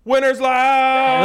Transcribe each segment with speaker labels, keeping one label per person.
Speaker 1: Winners live!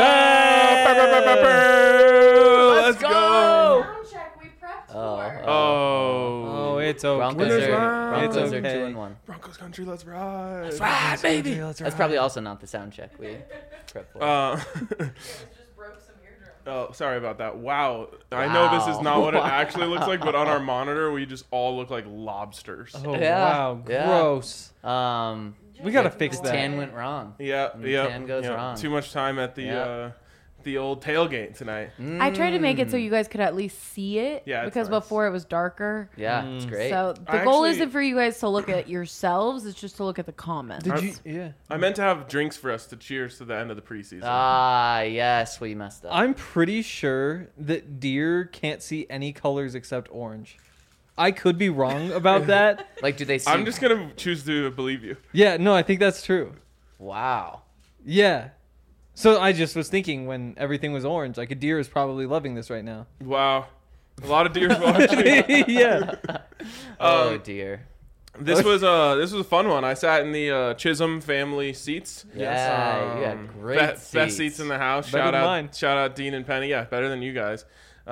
Speaker 1: Let's go!
Speaker 2: Sound check we prepped for.
Speaker 1: Oh,
Speaker 3: it's okay.
Speaker 1: Broncos
Speaker 3: are
Speaker 2: 2-1.
Speaker 1: Broncos country, let's ride!
Speaker 3: Let's ride, baby.
Speaker 2: That's probably also not the sound check we prepped for.
Speaker 4: Just broke some eardrums.
Speaker 1: Oh, sorry about that. Wow. I know this is not what it actually looks like, but on our monitor, we just all look like lobsters.
Speaker 3: Oh,
Speaker 2: Yeah,
Speaker 3: wow.
Speaker 2: yeah.
Speaker 3: Gross.
Speaker 2: We
Speaker 3: gotta fix that.
Speaker 2: Tan went wrong.
Speaker 1: Yeah,
Speaker 2: Tan goes wrong.
Speaker 1: Too much time at the old tailgate tonight.
Speaker 5: I tried to make it so you guys could at least see it.
Speaker 1: Yeah, it's
Speaker 5: because
Speaker 1: nice.
Speaker 5: before it was darker.
Speaker 2: Yeah, it's great.
Speaker 5: So the
Speaker 1: I
Speaker 5: goal
Speaker 1: actually-
Speaker 5: isn't for you guys to look at yourselves. It's just to look at the comments.
Speaker 3: Did you? Yeah.
Speaker 1: I meant to have drinks for us to cheers to the end of the preseason.
Speaker 2: Ah, yes, we messed up.
Speaker 3: I'm pretty sure that deer can't see any colors except orange. I could be wrong about that.
Speaker 2: Like, do they see?
Speaker 1: I'm just going to choose to believe you.
Speaker 3: Yeah, no, I think that's true.
Speaker 2: Wow.
Speaker 3: Yeah. So I just was thinking when everything was orange, like a deer is probably loving this right now.
Speaker 1: Wow. A lot of deers watching.
Speaker 3: Yeah.
Speaker 2: Oh dear.
Speaker 1: This was a fun one. I sat in the Chisholm family seats.
Speaker 2: Yeah, you had great
Speaker 1: Best seats in the house.
Speaker 3: Better than mine.
Speaker 1: Shout out Dean and Penny. Yeah, better than you guys.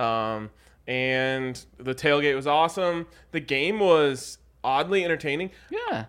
Speaker 1: And the tailgate was awesome. The game was oddly entertaining.
Speaker 2: Yeah.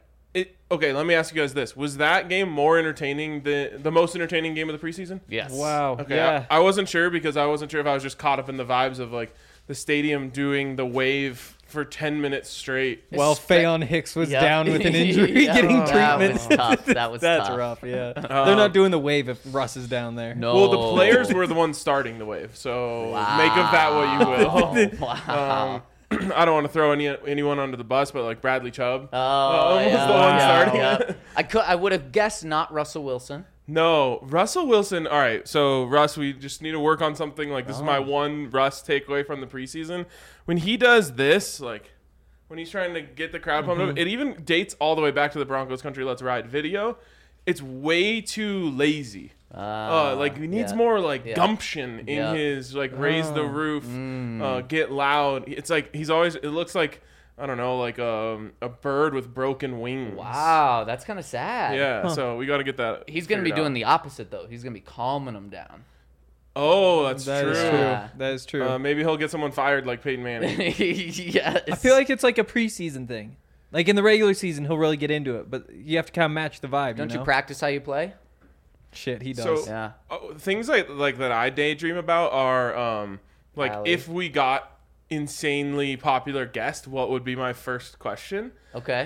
Speaker 1: Okay, let me ask you guys this. Was that game more entertaining the most entertaining game of the preseason?
Speaker 2: Yes.
Speaker 3: Wow.
Speaker 1: Okay.
Speaker 3: Yeah.
Speaker 1: I wasn't sure because I wasn't sure if I was just caught up in the vibes of like the stadium doing the wave for 10 minutes straight.
Speaker 3: Well, Fayon Hicks was
Speaker 2: Yep.
Speaker 3: down with an injury,
Speaker 2: Yeah.
Speaker 3: getting
Speaker 2: That
Speaker 3: treatment.
Speaker 2: was tough. That was
Speaker 3: That's
Speaker 2: tough.
Speaker 3: rough. Yeah. They're not doing the wave if Russ is down there.
Speaker 2: No.
Speaker 1: Well, the players were the ones starting the wave, so
Speaker 2: Wow.
Speaker 1: make of that what you will.
Speaker 2: Wow.
Speaker 1: I don't want to throw anyone under the bus, but like Bradley Chubb.
Speaker 2: Oh,
Speaker 1: was
Speaker 2: yeah,
Speaker 1: the one
Speaker 2: yeah,
Speaker 1: starting.
Speaker 2: yeah. I would have guessed not Russell Wilson.
Speaker 1: No, Russell Wilson. All right, so Russ, we just need to work on something. Like this is my one Russ takeaway from the preseason. When he does this, like when he's trying to get the crowd pumped up, it even dates all the way back to the Broncos Country Let's Ride video. It's way too lazy. Like he needs more like gumption in his like raise the roof, get loud. It's like he's always. It looks like I don't know, like a bird with broken wings.
Speaker 2: Wow, that's kind of sad.
Speaker 1: Yeah, so we got to get that.
Speaker 2: He's going to be
Speaker 1: figured
Speaker 2: doing
Speaker 1: out.
Speaker 2: the opposite, though. He's going to be calming them down.
Speaker 1: Oh, that's
Speaker 3: That
Speaker 1: true.
Speaker 3: is
Speaker 2: Yeah.
Speaker 3: true. That is true.
Speaker 1: Maybe he'll get someone fired like Peyton Manning.
Speaker 2: Yes.
Speaker 3: I feel like it's like a preseason thing. Like in the regular season, he'll really get into it, but you have to kind of match the vibe.
Speaker 2: Don't
Speaker 3: you
Speaker 2: you practice how you play?
Speaker 3: Shit, he
Speaker 1: So-
Speaker 3: does.
Speaker 2: Yeah.
Speaker 1: Things like that I daydream about are like
Speaker 2: Allie.
Speaker 1: if we got insanely popular guest, what would be my first question?
Speaker 2: Okay.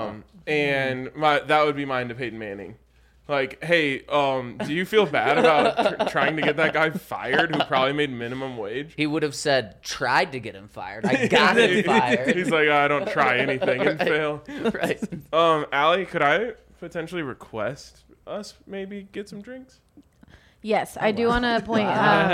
Speaker 1: And that would be mine to Peyton Manning. Like, hey, do you feel bad about trying to get that guy fired who probably made minimum wage?
Speaker 2: He would have said, tried to get him fired. I got him fired.
Speaker 1: He's like, I don't try anything and fail.
Speaker 2: Right.
Speaker 1: Allie, could I potentially request us maybe get some drinks?
Speaker 5: Yes, I do want to point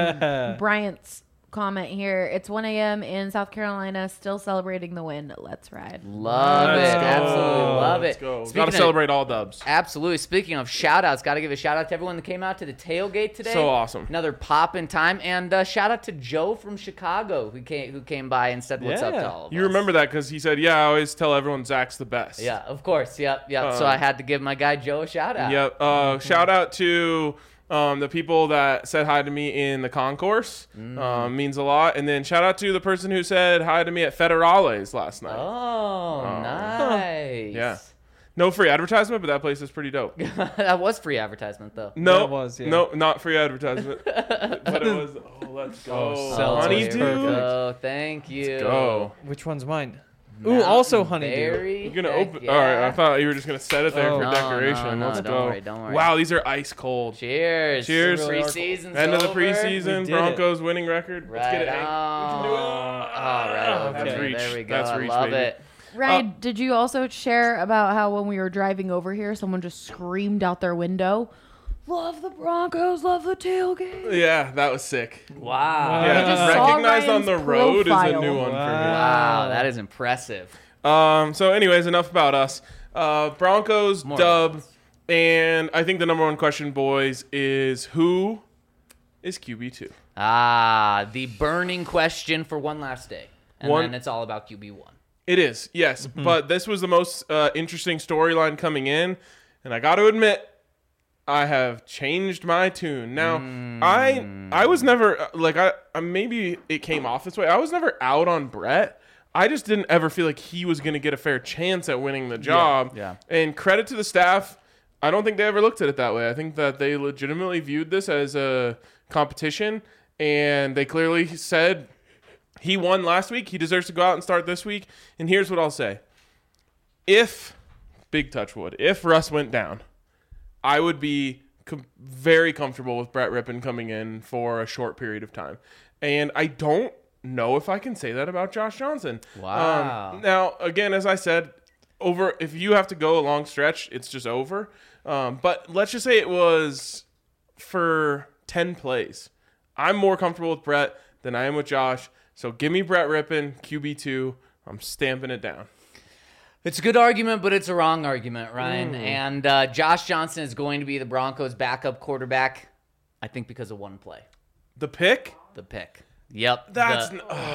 Speaker 5: Bryant's comment here. It's 1 a.m. in South Carolina, still celebrating the win. Let's ride.
Speaker 2: Love
Speaker 1: Let's
Speaker 2: it.
Speaker 1: go.
Speaker 2: Absolutely love
Speaker 1: Let's
Speaker 2: it.
Speaker 1: go.
Speaker 2: Speaking
Speaker 1: Got to
Speaker 2: of-
Speaker 1: celebrate all dubs.
Speaker 2: Absolutely. Speaking of shout outs, got to give a shout out to everyone that came out to the tailgate today.
Speaker 1: So awesome.
Speaker 2: Another pop in time. And shout out to Joe from Chicago who came by and said what's up to
Speaker 3: Yeah.
Speaker 2: all of
Speaker 1: You
Speaker 2: us.
Speaker 1: remember that because he said, yeah, I always tell everyone Zach's the best.
Speaker 2: Yeah, of course. Yep. So I had to give my guy Joe a shout out.
Speaker 1: Yep. Shout out to the people that said hi to me in the concourse. Means a lot. And then shout out to the person who said hi to me at Federales last night.
Speaker 2: Oh, nice.
Speaker 1: Yeah. No free advertisement, but that place is pretty dope.
Speaker 2: That was free advertisement, though.
Speaker 1: No,
Speaker 3: That was, yeah.
Speaker 1: no, not free advertisement. But it was, let's go.
Speaker 3: Oh, seltzer.
Speaker 1: Honey,
Speaker 2: here we
Speaker 1: dude.
Speaker 2: go. Thank you.
Speaker 1: Go.
Speaker 3: Which one's mine? Ooh, also honeydew.
Speaker 2: Berry.
Speaker 1: You're going to
Speaker 2: Heck
Speaker 1: open.
Speaker 2: yeah.
Speaker 1: All right, I thought you were just going to set it there
Speaker 3: Oh.
Speaker 1: for
Speaker 2: No,
Speaker 1: decoration.
Speaker 2: no,
Speaker 1: Let's
Speaker 2: don't
Speaker 1: go.
Speaker 2: worry, don't worry.
Speaker 1: Wow, these are ice cold.
Speaker 2: Cheers.
Speaker 1: Cheers.
Speaker 2: Preseason's
Speaker 1: End of the
Speaker 2: over.
Speaker 3: We
Speaker 1: preseason,
Speaker 3: did
Speaker 1: Broncos winning record. Let's get it,
Speaker 2: Right
Speaker 1: Hank.
Speaker 2: on.
Speaker 1: We can do it.
Speaker 2: All right.
Speaker 1: That's
Speaker 2: Okay.
Speaker 1: reach.
Speaker 2: There we go.
Speaker 1: That's
Speaker 2: I
Speaker 1: reach,
Speaker 2: love
Speaker 1: baby.
Speaker 2: it.
Speaker 5: Ryan, did you also share about how when we were driving over here, someone just screamed out their window, "Love the Broncos, love the tailgate."
Speaker 1: Yeah, that was sick.
Speaker 2: Wow.
Speaker 1: Yeah,
Speaker 5: I just
Speaker 1: just
Speaker 5: saw
Speaker 1: recognized on
Speaker 5: Ryan's
Speaker 1: the road is a
Speaker 5: profile.
Speaker 1: new one for
Speaker 2: Wow, that is impressive.
Speaker 1: me. So anyways, enough about us. Broncos
Speaker 2: More
Speaker 1: dub, and I think the number one question, boys, is who is QB2?
Speaker 2: The burning question for one last day. And
Speaker 1: One-
Speaker 2: then it's all about QB1.
Speaker 1: It is, yes. But this was the most interesting storyline coming in. And I got to admit, I have changed my tune. Now, I was never like I maybe it came off this way. I was never out on Brett. I just didn't ever feel like he was going to get a fair chance at winning the job.
Speaker 2: Yeah.
Speaker 1: And credit to the staff. I don't think they ever looked at it that way. I think that they legitimately viewed this as a competition, and they clearly said he won last week. He deserves to go out and start this week. And here's what I'll say. If, big touch wood, if Russ went down, I would be very comfortable with Brett Rippon coming in for a short period of time. And I don't know if I can say that about Josh Johnson.
Speaker 2: Wow.
Speaker 1: Now, again, as I said, if you have to go a long stretch, it's just over. But let's just say it was for 10 plays. I'm more comfortable with Brett than I am with Josh. So give me Brett Rippon, QB2. I'm stamping it down.
Speaker 2: It's a good argument, but it's a wrong argument, Ryan. And Josh Johnson is going to be the Broncos' backup quarterback, I think because of one play.
Speaker 1: The pick?
Speaker 2: The pick. Yep.
Speaker 1: That's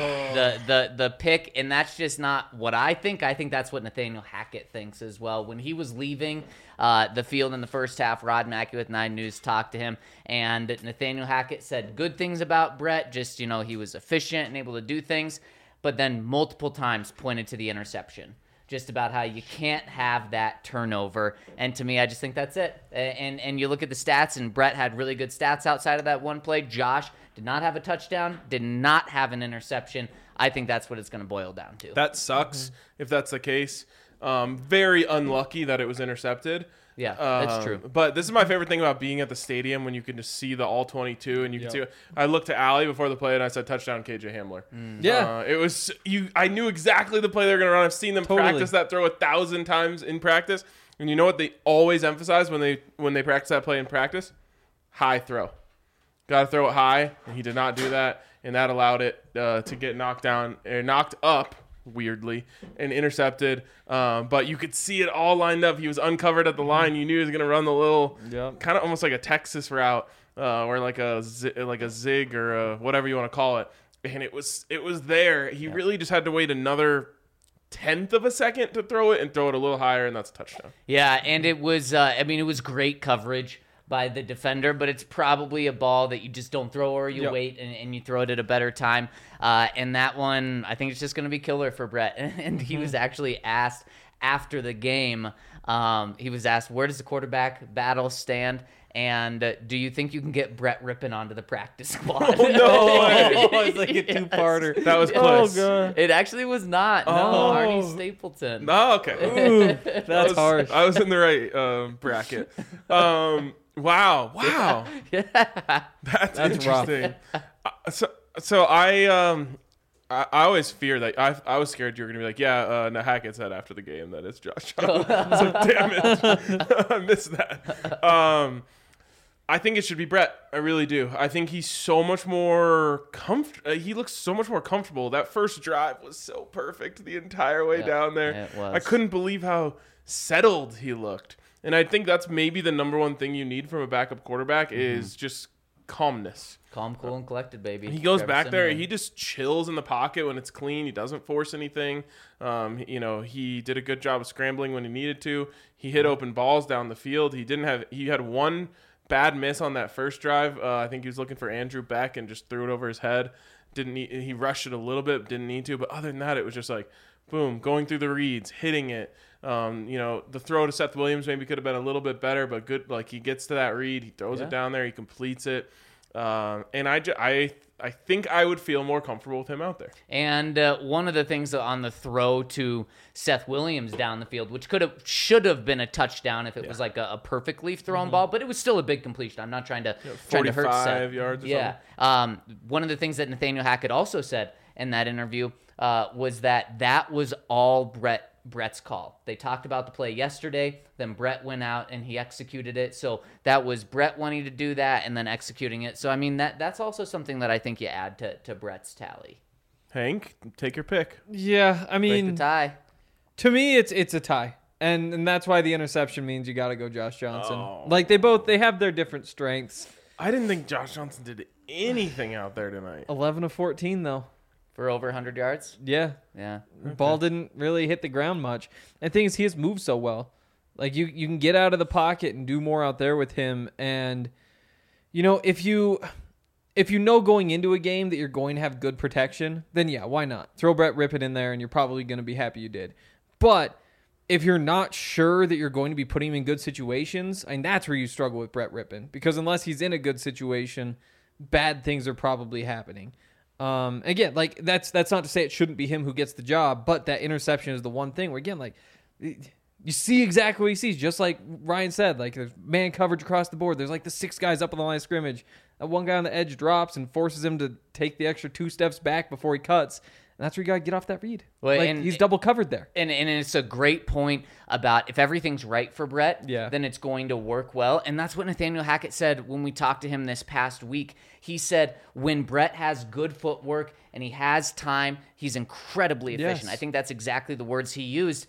Speaker 2: the pick, and that's just not what I think. I think that's what Nathaniel Hackett thinks as well. When he was leaving the field in the first half, Rod Mackey with 9 News talked to him, and Nathaniel Hackett said good things about Brett. Just, he was efficient and able to do things, but then multiple times pointed to the interception. Just about how you can't have that turnover. And to me, I just think that's it. And you look at the stats, and Brett had really good stats outside of that one play. Josh did not have a touchdown, did not have an interception. I think that's what it's going to boil down to.
Speaker 1: That sucks if that's the case. Very unlucky that it was intercepted.
Speaker 2: Yeah, that's true.
Speaker 1: But this is my favorite thing about being at the stadium when you can just see the all 22 and you can see. I looked to Allie before the play and I said touchdown KJ Hamler.
Speaker 3: Yeah.
Speaker 1: It was I knew exactly the play they were going to run. I've seen them practice that throw 1,000 times in practice. And you know what they always emphasize when they practice that play in practice? High throw. Got to throw it high, and he did not do that, and that allowed it to get knocked up. Weirdly, and intercepted, but you could see it all lined up. He was uncovered at the line. You knew he was going to run the little, kind of almost like a Texas route, or like a zig or whatever you want to call it. And it was there. He really just had to wait another 1/10 of a second to throw it and throw it a little higher, and that's a touchdown.
Speaker 2: Yeah, and it was. It was great coverage by the defender, but it's probably a ball that you just don't throw, or you wait and you throw it at a better time. And that one, I think it's just going to be killer for Brett. And he was actually asked after the game, he was asked, where does the quarterback battle stand? And do you think you can get Brett Rippon onto the practice squad?
Speaker 1: Oh, no way.
Speaker 3: It's like a two-parter.
Speaker 1: That was close.
Speaker 3: Oh, God.
Speaker 2: It actually was not. No, Arnie Stapleton.
Speaker 1: No, okay.
Speaker 3: Ooh, that's harsh.
Speaker 1: I was in the right bracket. Wow.
Speaker 2: Yeah.
Speaker 1: That's
Speaker 3: rough.
Speaker 1: interesting. So I always fear that I was scared you were gonna be like, no, Hackett said after the game that it's Josh Johnson. So damn it, I missed that. I think it should be Brett. I really do. I think he's so much more he looks so much more comfortable. That first drive was so perfect the entire way down there.
Speaker 2: It was.
Speaker 1: I couldn't believe how settled he looked. And I think that's maybe the number one thing you need from a backup quarterback is just calmness.
Speaker 2: Calm, cool, and collected, baby.
Speaker 1: He goes
Speaker 2: Trevor
Speaker 1: back there.
Speaker 2: Siemian.
Speaker 1: He just chills in the pocket when it's clean. He doesn't force anything. He did a good job of scrambling when he needed to. He hit open balls down the field. He had one bad miss on that first drive. I think he was looking for Andrew Beck and just threw it over his head. He rushed it a little bit, didn't need to. But other than that, it was just like, boom, going through the reads, hitting it. The throw to Seth Williams maybe could have been a little bit better, but good. Like he gets to that read, he throws it down there, he completes it. And I think I would feel more comfortable with him out there.
Speaker 2: And one of the things on the throw to Seth Williams down the field, which should have been a touchdown if it was like a perfectly thrown ball, but it was still a big completion. I'm not trying to hurt Seth.
Speaker 1: 45 yards or
Speaker 2: something. One of the things that Nathaniel Hackett also said in that interview was that was all Brett's call. They talked about the play yesterday, then Brett went out and he executed it. So that was Brett wanting to do that and then executing it. So, that's also something that I think you add to Brett's tally.
Speaker 1: Hank, take your pick.
Speaker 3: Yeah,
Speaker 2: Break the tie.
Speaker 3: To me, it's a tie. And that's why the interception means you got to go Josh Johnson.
Speaker 1: Oh.
Speaker 3: Like, they have their different strengths.
Speaker 1: I didn't think Josh Johnson did anything out there tonight.
Speaker 3: 11 of 14, though.
Speaker 2: For over 100 yards?
Speaker 3: Yeah.
Speaker 2: Yeah.
Speaker 3: Ball didn't really hit the ground much. And the thing is, he has moved so well. Like you can get out of the pocket and do more out there with him. And if you know going into a game that you're going to have good protection, then yeah, why not? Throw Brett Rippon in there and you're probably going to be happy you did. But if you're not sure that you're going to be putting him in good situations, I mean, that's where you struggle with Brett Rippon. Because unless he's in a good situation, bad things are probably happening. Again, like that's not to say it shouldn't be him who gets the job, but that interception is the one thing where, again, like you see exactly what he sees. Just like Ryan said, like there's man coverage across the board. There's like the 6 guys up on the line of scrimmage. That one guy on the edge drops and forces him to take the extra 2 steps back before he cuts. And that's where you got to get off that read.
Speaker 2: Well,
Speaker 3: like he's double covered there.
Speaker 2: And it's a great point about if everything's right for Brett, then it's going to work well. And that's what Nathaniel Hackett said when we talked to him this past week. He said when Brett has good footwork and he has time, he's incredibly efficient.
Speaker 3: Yes.
Speaker 2: I think that's exactly the words he used.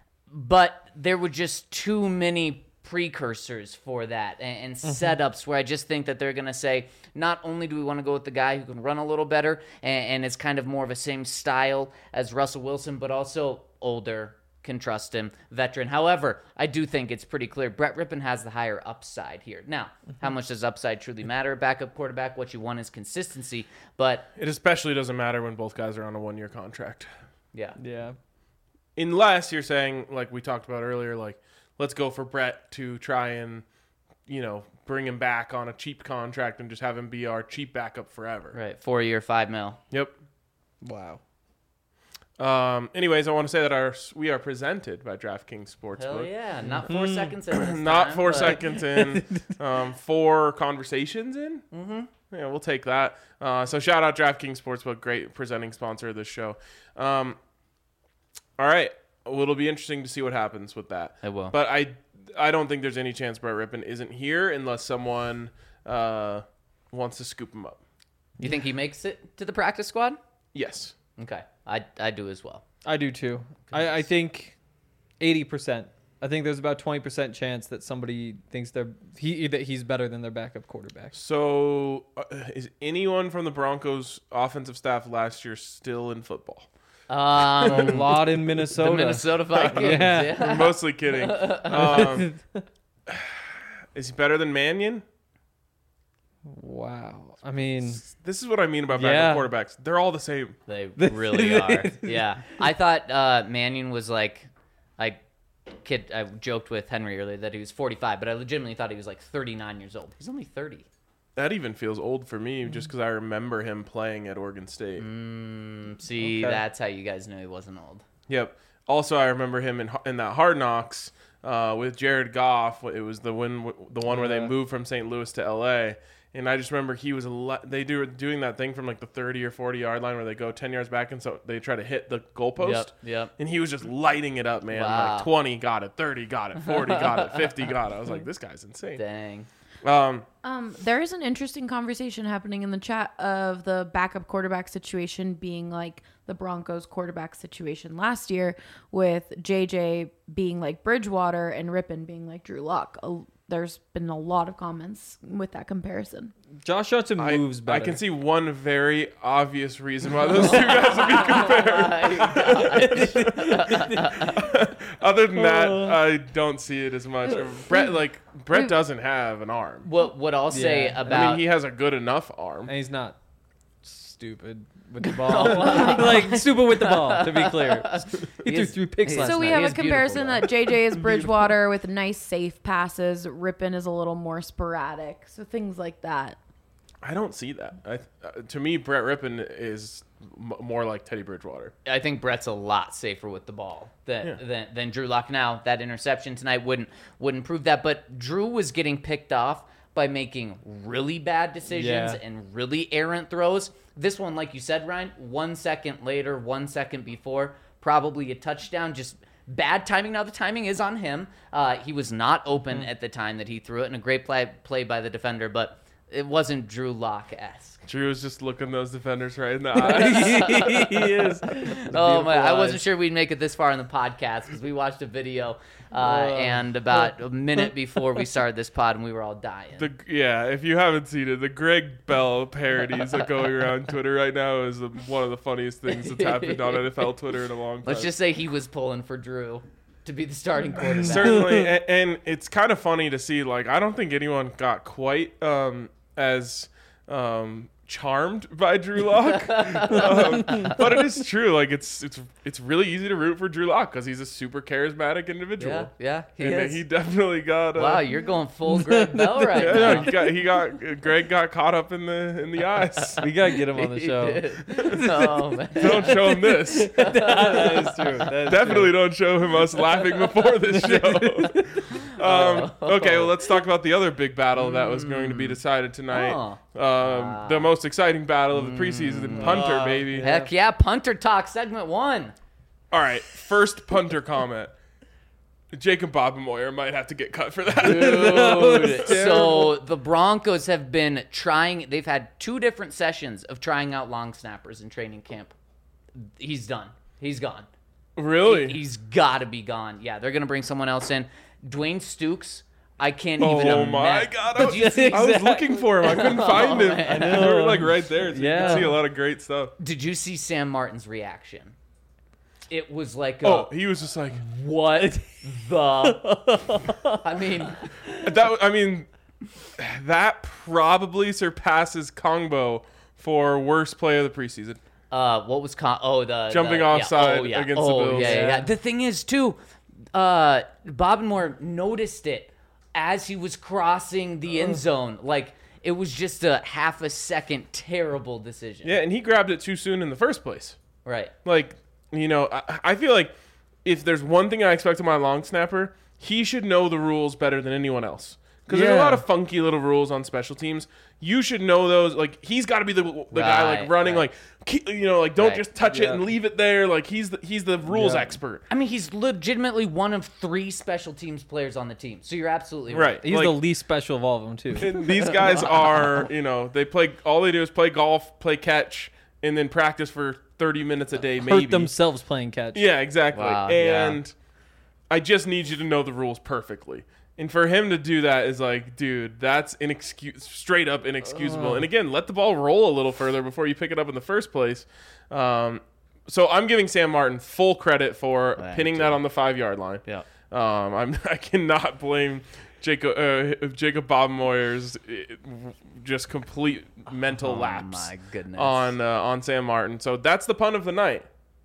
Speaker 2: But there were just too many precursors for that and setups where I just think that they're going to say, not only do we want to go with the guy who can run a little better and is kind of more of a same style as Russell Wilson, but also older, can trust him, veteran. However, I do think it's pretty clear Brett Rippon has the higher upside here. Now, how much does upside truly matter? Backup quarterback, what you want is consistency, but
Speaker 1: It especially doesn't matter when both guys are on a 1-year contract.
Speaker 3: Yeah.
Speaker 1: Unless you're saying, like we talked about earlier, like, let's go for Brett to try and, bring him back on a cheap contract and just have him be our cheap backup forever.
Speaker 2: right, 4-year, $5 million.
Speaker 1: Yep.
Speaker 3: Wow.
Speaker 1: Anyways, I want to say that we are presented by DraftKings Sportsbook.
Speaker 2: Hell yeah, not 4 seconds in this
Speaker 1: Not
Speaker 2: time,
Speaker 1: 4
Speaker 2: but-
Speaker 1: seconds in, 4 conversations in. Mm-hmm. Yeah, we'll take that. So shout out DraftKings Sportsbook, great presenting sponsor of this show. All right, well, it'll be interesting to see what happens with that.
Speaker 2: It will.
Speaker 1: But I don't think there's any chance Brett Rippon isn't here unless someone wants to scoop him up.
Speaker 2: You think he makes it to the practice squad?
Speaker 1: Yes.
Speaker 2: Okay, I do as well.
Speaker 3: I do too. I think 80%. I think there's about 20% chance that somebody thinks that he's better than their backup quarterback.
Speaker 1: So is anyone from the Broncos offensive staff last year still in football?
Speaker 3: A lot in Minnesota.
Speaker 2: The Minnesota Vikings.
Speaker 3: Yeah.
Speaker 1: I'm mostly kidding. Is he better than Mannion?
Speaker 3: Wow. I mean,
Speaker 1: This is what I mean about backup quarterbacks. They're all the same.
Speaker 2: They really are. Yeah. I thought Mannion was I joked with Henry earlier that he was 45, but I legitimately thought he was like 39 years old. He's only 30.
Speaker 1: That even feels old for me just because I remember him playing at Oregon State.
Speaker 2: See,
Speaker 3: Okay.
Speaker 2: that's how you guys knew he wasn't old.
Speaker 1: Yep. Also, I remember him in that Hard Knocks with Jared Goff. It was the one where they moved from St. Louis to L.A., and I just remember he was doing that thing from like the 30 or 40 yard line where they go 10 yards back and so they try to hit the goalpost.
Speaker 2: Yep.
Speaker 1: And he was just lighting it up, man.
Speaker 2: Wow.
Speaker 1: Like 20 got it, 30 got it, 40 got it, 50 got it. I was like, this guy's insane.
Speaker 2: Dang.
Speaker 5: There is an interesting conversation happening in the chat of the backup quarterback situation being like the Broncos quarterback situation last year, with JJ being like Bridgewater and Rippon being like Drew Lock. There's been a lot of comments with that comparison.
Speaker 3: Josh Johnson moves better.
Speaker 1: I can see one very obvious reason why those two guys would be compared. Other than that, I don't see it as much. Brett doesn't have an arm.
Speaker 2: What I'll say
Speaker 3: Yeah.
Speaker 2: about
Speaker 1: I mean, he has a good enough arm.
Speaker 3: And he's not stupid with the ball. Stupid with the ball, to be clear. He threw 3 picks last
Speaker 5: So we
Speaker 3: night.
Speaker 5: have
Speaker 2: He
Speaker 5: a
Speaker 2: is
Speaker 5: comparison
Speaker 2: beautiful,
Speaker 5: that JJ is Bridgewater with nice safe passes. Rippon is a little more sporadic. So things like that.
Speaker 1: I don't see that. To me, Brett Rippon is more like Teddy Bridgewater.
Speaker 2: I think Brett's a lot safer with the ball than Drew Lock. Now, that interception tonight wouldn't prove that, but Drew was getting picked off by making really bad decisions and really errant throws. This one, like you said, Ryan, 1 second later, 1 second before, probably a touchdown, just bad timing. Now, the timing is on him. He was not open at the time that he threw it, and a great play by the defender, but it wasn't Drew Lock-esque.
Speaker 1: Drew was just looking those defenders right in the eyes.
Speaker 3: He is.
Speaker 2: Oh my! I wasn't sure we'd make it this far in the podcast because we watched a video and about a minute before we started this pod, and we were all dying.
Speaker 1: If you haven't seen it, the Greg Bell parodies that going around Twitter right now is one of the funniest things that's happened on NFL Twitter in a long time.
Speaker 2: Let's just say he was pulling for Drew. to be the starting quarterback.
Speaker 1: Certainly, and it's kind of funny to see. Like, I don't think anyone got quite as charmed by Drew Lock, but it is true. Like, it's really easy to root for Drew Lock because he's a super charismatic individual.
Speaker 2: Yeah,
Speaker 1: He definitely got.
Speaker 2: Wow, you're going full Greg Bell right
Speaker 1: Yeah,
Speaker 2: now.
Speaker 1: Greg got caught up in the eyes.
Speaker 3: We gotta get him on the show.
Speaker 2: Oh, man.
Speaker 1: Don't show him this.
Speaker 3: That is true.
Speaker 1: Definitely don't show him us laughing before this show. Okay, well, let's talk about the other big battle that was going to be decided tonight. The most exciting battle of the preseason, punter, baby.
Speaker 2: Heck yeah, punter talk segment 1.
Speaker 1: All right, first punter comment. Jacob Bobenmoyer might have to get cut for that.
Speaker 2: Dude. So the Broncos have been trying. They've had 2 different sessions of trying out long snappers in training camp. He's done. He's gone.
Speaker 1: Really?
Speaker 2: He's got to be gone. Yeah, they're going to bring someone else in. Dwayne Stukes, I can't even imagine.
Speaker 1: Oh, my God.
Speaker 2: Did
Speaker 1: I was looking for him. I couldn't find him.
Speaker 2: man.
Speaker 1: They were like right there. So you
Speaker 3: Yeah.
Speaker 1: can see a lot of great stuff.
Speaker 2: Did you see Sam Martin's reaction? It was like,
Speaker 1: He was just like,
Speaker 2: what the? I mean,
Speaker 1: that probably surpasses Kongbo for worst play of the preseason.
Speaker 2: what was the
Speaker 1: Jumping offside against the Bills.
Speaker 2: Yeah. The thing is, too, Bobenmoyer noticed it as he was crossing the end zone. Like, it was just a half a second terrible decision.
Speaker 1: Yeah, and he grabbed it too soon in the first place.
Speaker 2: Right.
Speaker 1: Like, I feel like if there's one thing I expect of my long snapper, he should know the rules better than anyone else. Because there's a lot of funky little rules on special teams. You should know those. Like, he's got to be the guy like running,
Speaker 2: right.
Speaker 1: like don't just touch it and leave it there. Like, he's the rules expert.
Speaker 2: I mean, he's legitimately one of 3 special teams players on the team. So you're absolutely right.
Speaker 3: He's the least special of all of them, too.
Speaker 1: And these guys are, all they do is play golf, play catch, and then practice for 30 minutes a day, maybe.
Speaker 3: Hurt themselves playing catch.
Speaker 1: Yeah, exactly.
Speaker 2: Wow,
Speaker 1: and I just need you to know the rules perfectly. And for him to do that is like, dude, that's straight up inexcusable. And again, let the ball roll a little further before you pick it up in the first place. So I'm giving Sam Martin full credit for pinning that on the 5-yard line.
Speaker 2: Yeah.
Speaker 1: I cannot blame Jacob Bobenmoyer's just complete mental lapse.
Speaker 2: My goodness.
Speaker 1: On Sam Martin. So that's the punt of the night.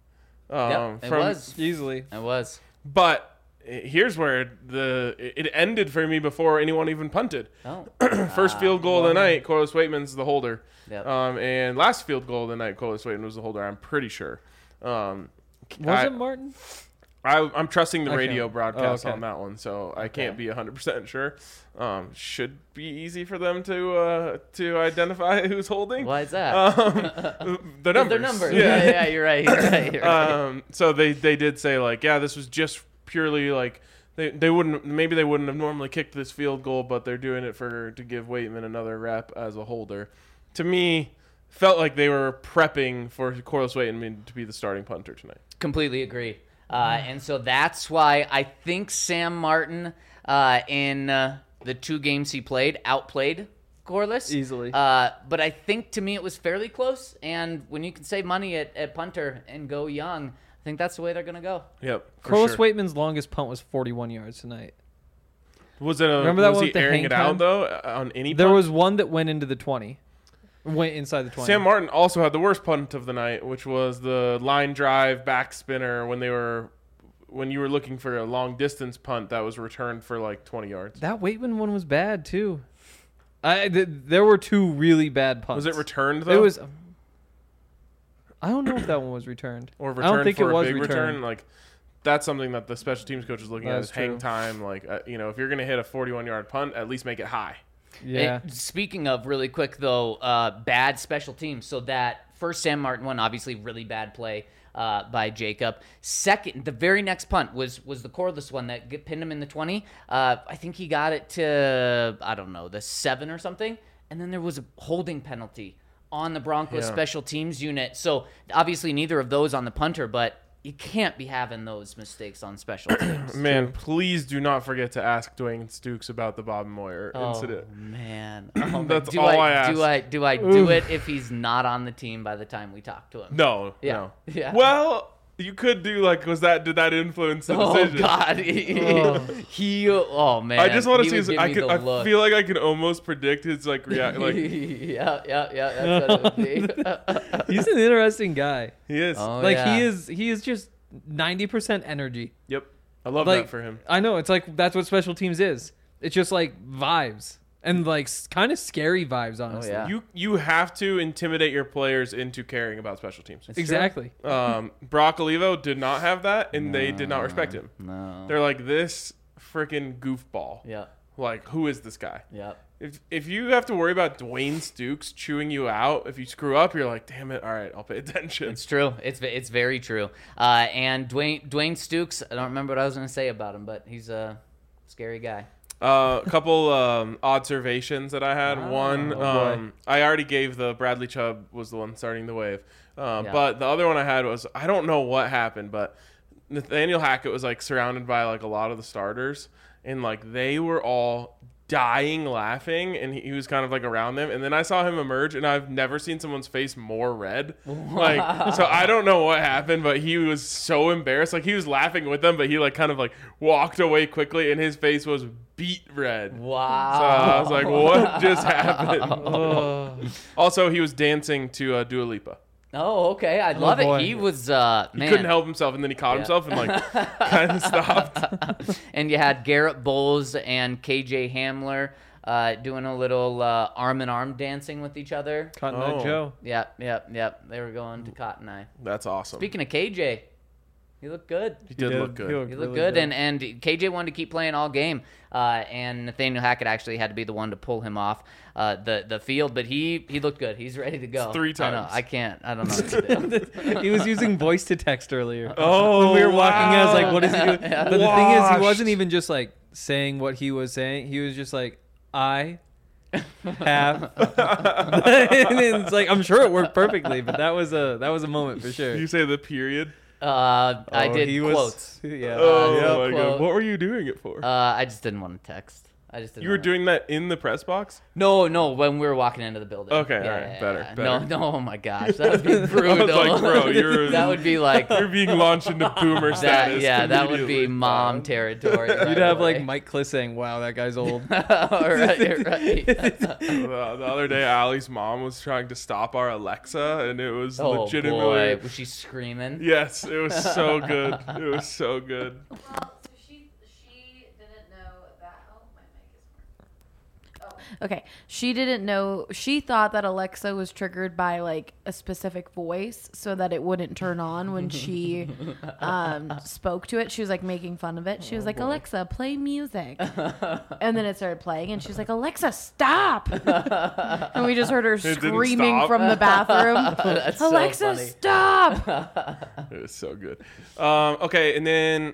Speaker 2: It was.
Speaker 3: Easily.
Speaker 2: It was.
Speaker 1: But here's where it ended for me before anyone even punted.
Speaker 2: Oh.
Speaker 1: First field goal of the night, Corliss Waitman's the holder.
Speaker 2: Yep.
Speaker 1: And last field goal of the night, Corliss Waitman was the holder, I'm pretty sure.
Speaker 3: Was it Martin?
Speaker 1: I'm trusting the
Speaker 3: Okay.
Speaker 1: radio broadcast
Speaker 3: okay.
Speaker 1: on that one, so I can't be 100% sure. Should be easy for them to identify who's holding.
Speaker 2: Why is that?
Speaker 1: The numbers.
Speaker 2: Their numbers. Yeah, you're right. You're right.
Speaker 1: So they did say, like, yeah, this was just purely like they wouldn't have normally kicked this field goal, but they're doing it to give Waitman another rep as a holder. To me, felt like they were prepping for Corliss Waitman to be the starting punter tonight.
Speaker 2: Completely agree. And so that's why I think Sam Martin in the 2 games he played outplayed Corliss
Speaker 3: Easily.
Speaker 2: But I think to me it was fairly close. And when you can save money at punter and go young, I think that's the way they're going to go.
Speaker 1: Yep.
Speaker 3: Corliss Waitman's longest punt was 41 yards tonight.
Speaker 1: Remember
Speaker 3: that
Speaker 1: was
Speaker 3: one
Speaker 1: he
Speaker 3: with the
Speaker 1: airing
Speaker 3: hang
Speaker 1: it out
Speaker 3: time?
Speaker 1: though on any?
Speaker 3: There
Speaker 1: punt?
Speaker 3: was one that went into the 20. Went inside the 20.
Speaker 1: Sam Martin also had the worst punt of the night, which was the line drive back spinner when you were looking for a long distance punt that was returned for like 20 yards.
Speaker 3: That Waitman one was bad too. There were 2 really bad punts.
Speaker 1: Was it returned though?
Speaker 3: It was. I don't know if that one was returned.
Speaker 1: Or
Speaker 3: I don't
Speaker 1: returned
Speaker 3: think
Speaker 1: for
Speaker 3: it
Speaker 1: a
Speaker 3: was
Speaker 1: big
Speaker 3: returned.
Speaker 1: return? Like, that's something that the special teams coach is looking at
Speaker 3: That's
Speaker 1: is hang
Speaker 3: true.
Speaker 1: time. Like, if you're gonna hit a 41-yard punt, at least make it high.
Speaker 3: Yeah.
Speaker 2: Speaking of really quick though, bad special teams. So that first Sam Martin one, obviously really bad play by Jacob. Second, the very next punt was the Corliss one that pinned him in the 20. I think he got it to the 7 or something, and then there was a holding penalty on the Broncos special teams unit. So obviously neither of those on the punter, but you can't be having those mistakes on special teams.
Speaker 1: Man, please do not forget to ask Dwayne Stukes about the Bob Moyer incident.
Speaker 2: Oh man, oh,
Speaker 1: That's all I ask.
Speaker 2: Do I do it if he's not on the team by the time we talk to him?
Speaker 1: No,
Speaker 2: Yeah.
Speaker 1: no.
Speaker 2: Yeah.
Speaker 1: Well, You could do like, did that influence the
Speaker 2: Oh
Speaker 1: decision?
Speaker 2: God, oh man.
Speaker 1: I just want to
Speaker 2: He
Speaker 1: see.
Speaker 2: would give me the
Speaker 1: I
Speaker 2: look.
Speaker 1: feel like I can almost predict his like react. Like
Speaker 2: yeah. That's what it would be.
Speaker 3: He's an interesting guy.
Speaker 1: he is.
Speaker 2: Oh,
Speaker 3: Like
Speaker 2: yeah.
Speaker 3: he is just 90% energy.
Speaker 1: Yep. I love
Speaker 3: Like
Speaker 1: that for him.
Speaker 3: I know it's like that's what special teams is. It's just like vibes and like kind of scary vibes, honestly.
Speaker 2: yeah.
Speaker 1: You have to intimidate your players into caring about special teams.
Speaker 2: It's
Speaker 3: Exactly.
Speaker 1: Brock Olivo did not have that, and they did not respect him.
Speaker 2: No.
Speaker 1: They're like, this freaking goofball.
Speaker 2: Yep.
Speaker 1: Like, who is this guy?
Speaker 2: Yep.
Speaker 1: If you have to worry about Dwayne Stukes chewing you out, if you screw up, you're like, damn it, all right, I'll pay attention.
Speaker 2: It's true. It's very true. And Dwayne Stukes, I don't remember what I was going to say about him, but he's a scary guy.
Speaker 1: A couple observations that I had. One,
Speaker 3: boy.
Speaker 1: I already gave the Bradley Chubb was the one starting the wave.
Speaker 2: Yeah.
Speaker 1: But the other one I had was, I don't know what happened, but Nathaniel Hackett was like surrounded by like a lot of the starters, and like they were all dying laughing, and he was kind of like around them, and then I saw him emerge, and I've never seen someone's face more red. Like, so I don't know what happened, but he was so embarrassed. Like, he was laughing with them, but he like kind of like walked away quickly, and his face was beet red.
Speaker 2: Wow.
Speaker 1: So I was like, what just happened?
Speaker 3: Oh.
Speaker 1: Also, he was dancing to Dua Lipa.
Speaker 2: Oh, okay. I love
Speaker 3: boy.
Speaker 2: it. He was,
Speaker 1: He
Speaker 2: man.
Speaker 1: couldn't help himself, and then he caught himself and like kind of stopped.
Speaker 2: And you had Garrett Bowles and KJ Hamler doing a little arm in arm dancing with each other.
Speaker 3: Cotton Eye
Speaker 1: Oh.
Speaker 3: Joe.
Speaker 2: Yep. They were going to Cotton Eye.
Speaker 1: That's awesome.
Speaker 2: Speaking of KJ, he looked good.
Speaker 1: he did look good.
Speaker 2: He looked good, and KJ wanted to keep playing all game, and Nathaniel Hackett actually had to be the one to pull him off the field, but he looked good. He's ready to go.
Speaker 1: It's 3
Speaker 2: I know.
Speaker 1: times.
Speaker 2: I can't. I don't know what to do.
Speaker 3: He was using voice to text earlier.
Speaker 1: Oh,
Speaker 3: When we were walking, I was like, what is he doing?
Speaker 2: Yeah.
Speaker 3: But the thing is, he
Speaker 1: Washed.
Speaker 3: wasn't even just like saying what he was saying. He was just like, I have. And it's like, I'm sure it worked perfectly, but that was a moment for sure.
Speaker 1: Did you say the period?
Speaker 2: I
Speaker 3: Oh,
Speaker 2: did
Speaker 3: he was-
Speaker 2: quotes.
Speaker 3: Yeah.
Speaker 1: Oh
Speaker 2: yeah.
Speaker 1: my
Speaker 2: Quote.
Speaker 1: god! What were you doing it for?
Speaker 2: I just didn't want to text. I just didn't
Speaker 1: You were
Speaker 2: wanna-
Speaker 1: doing that in the press box?
Speaker 2: No, when we were walking into the building.
Speaker 1: Okay, all right, better.
Speaker 2: No, oh my gosh, that would be brutal.
Speaker 1: like, bro, you're-
Speaker 2: that would be like
Speaker 1: You're being launched into boomer status.
Speaker 2: that would be
Speaker 1: immediately.
Speaker 2: mom territory.
Speaker 3: You'd
Speaker 2: right
Speaker 3: have
Speaker 2: away.
Speaker 3: like Mike Kliss saying, wow, that guy's old.
Speaker 2: right.
Speaker 1: The other day, Allie's mom was trying to stop our Alexa, and it was
Speaker 2: Oh
Speaker 1: legitimately.
Speaker 2: boy, was she screaming?
Speaker 1: Yes, it was so good. It was so good.
Speaker 5: Well, so she didn't know that. Oh, my mic is. Oh, okay. She didn't know. She thought that Alexa was triggered by like a specific voice, so that it wouldn't turn on when she spoke to it. She was like making fun of it. She was like, "Alexa, play music," and then it started playing, and she's like, "Alexa, stop!" And we just heard her
Speaker 1: didn't
Speaker 5: screaming
Speaker 1: stop?
Speaker 5: from the bathroom.
Speaker 2: That's so
Speaker 5: Alexa,
Speaker 2: funny.
Speaker 5: stop!
Speaker 1: It was so good. Okay, and then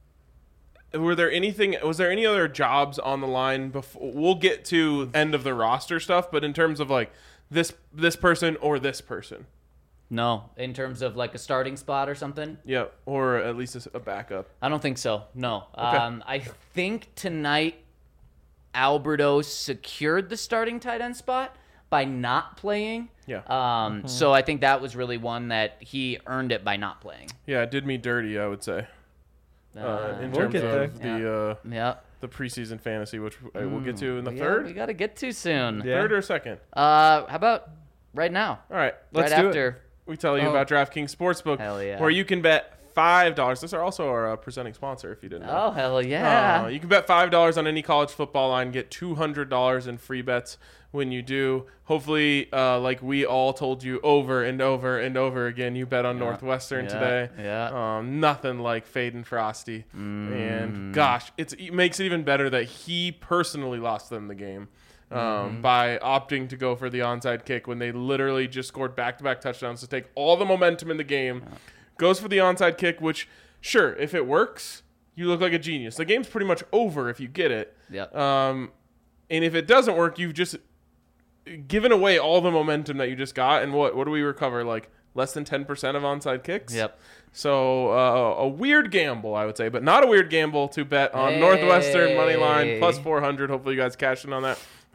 Speaker 1: was there any other jobs on the line before? We'll get to end of the roster stuff, but in terms of like this person or this person,
Speaker 2: No, in terms of like a starting spot or something.
Speaker 1: yeah, or at least a backup.
Speaker 2: I don't think so. No.
Speaker 1: Okay.
Speaker 2: I think tonight Alberto secured the starting tight end spot by not playing.
Speaker 1: Yeah,
Speaker 2: So I think that was really one that he earned it by not playing.
Speaker 1: yeah, it did me dirty, I would say, in
Speaker 3: We'll
Speaker 1: terms
Speaker 3: get
Speaker 1: of
Speaker 3: there.
Speaker 2: Yeah.
Speaker 1: the preseason fantasy, which we'll get to in the
Speaker 2: We
Speaker 1: third,
Speaker 2: got to get to soon.
Speaker 3: Yeah.
Speaker 1: third or second.
Speaker 2: How about right now?
Speaker 1: All right,
Speaker 3: Let's
Speaker 2: right
Speaker 3: do it.
Speaker 2: after.
Speaker 1: we tell you
Speaker 3: Oh.
Speaker 1: about DraftKings Sportsbook,
Speaker 2: Hell yeah.
Speaker 1: where you can bet $5. This is also our presenting sponsor, if you didn't know.
Speaker 2: Oh, hell yeah.
Speaker 1: You can bet $5 on any college football line, get $200 in free bets when you do. Hopefully, like we all told you over and over and over again, you bet on Northwestern
Speaker 2: Yeah.
Speaker 1: today.
Speaker 2: Yeah.
Speaker 1: Nothing like Fade and Frosty. And gosh, it makes it even better that he personally lost them the game. By opting to go for the onside kick when they literally just scored back-to-back touchdowns to take all the momentum in the game. Goes for the onside kick, which, sure, if it works, you look like a genius. The game's pretty much over if you get it.
Speaker 2: Yep.
Speaker 1: And if it doesn't work, you've just given away all the momentum that you just got. And what do we recover? Like less than 10% of onside kicks?
Speaker 2: Yep.
Speaker 1: So a weird gamble, I would say, but not a weird gamble to bet on Northwestern money line plus 400. Hopefully you guys cash in on that.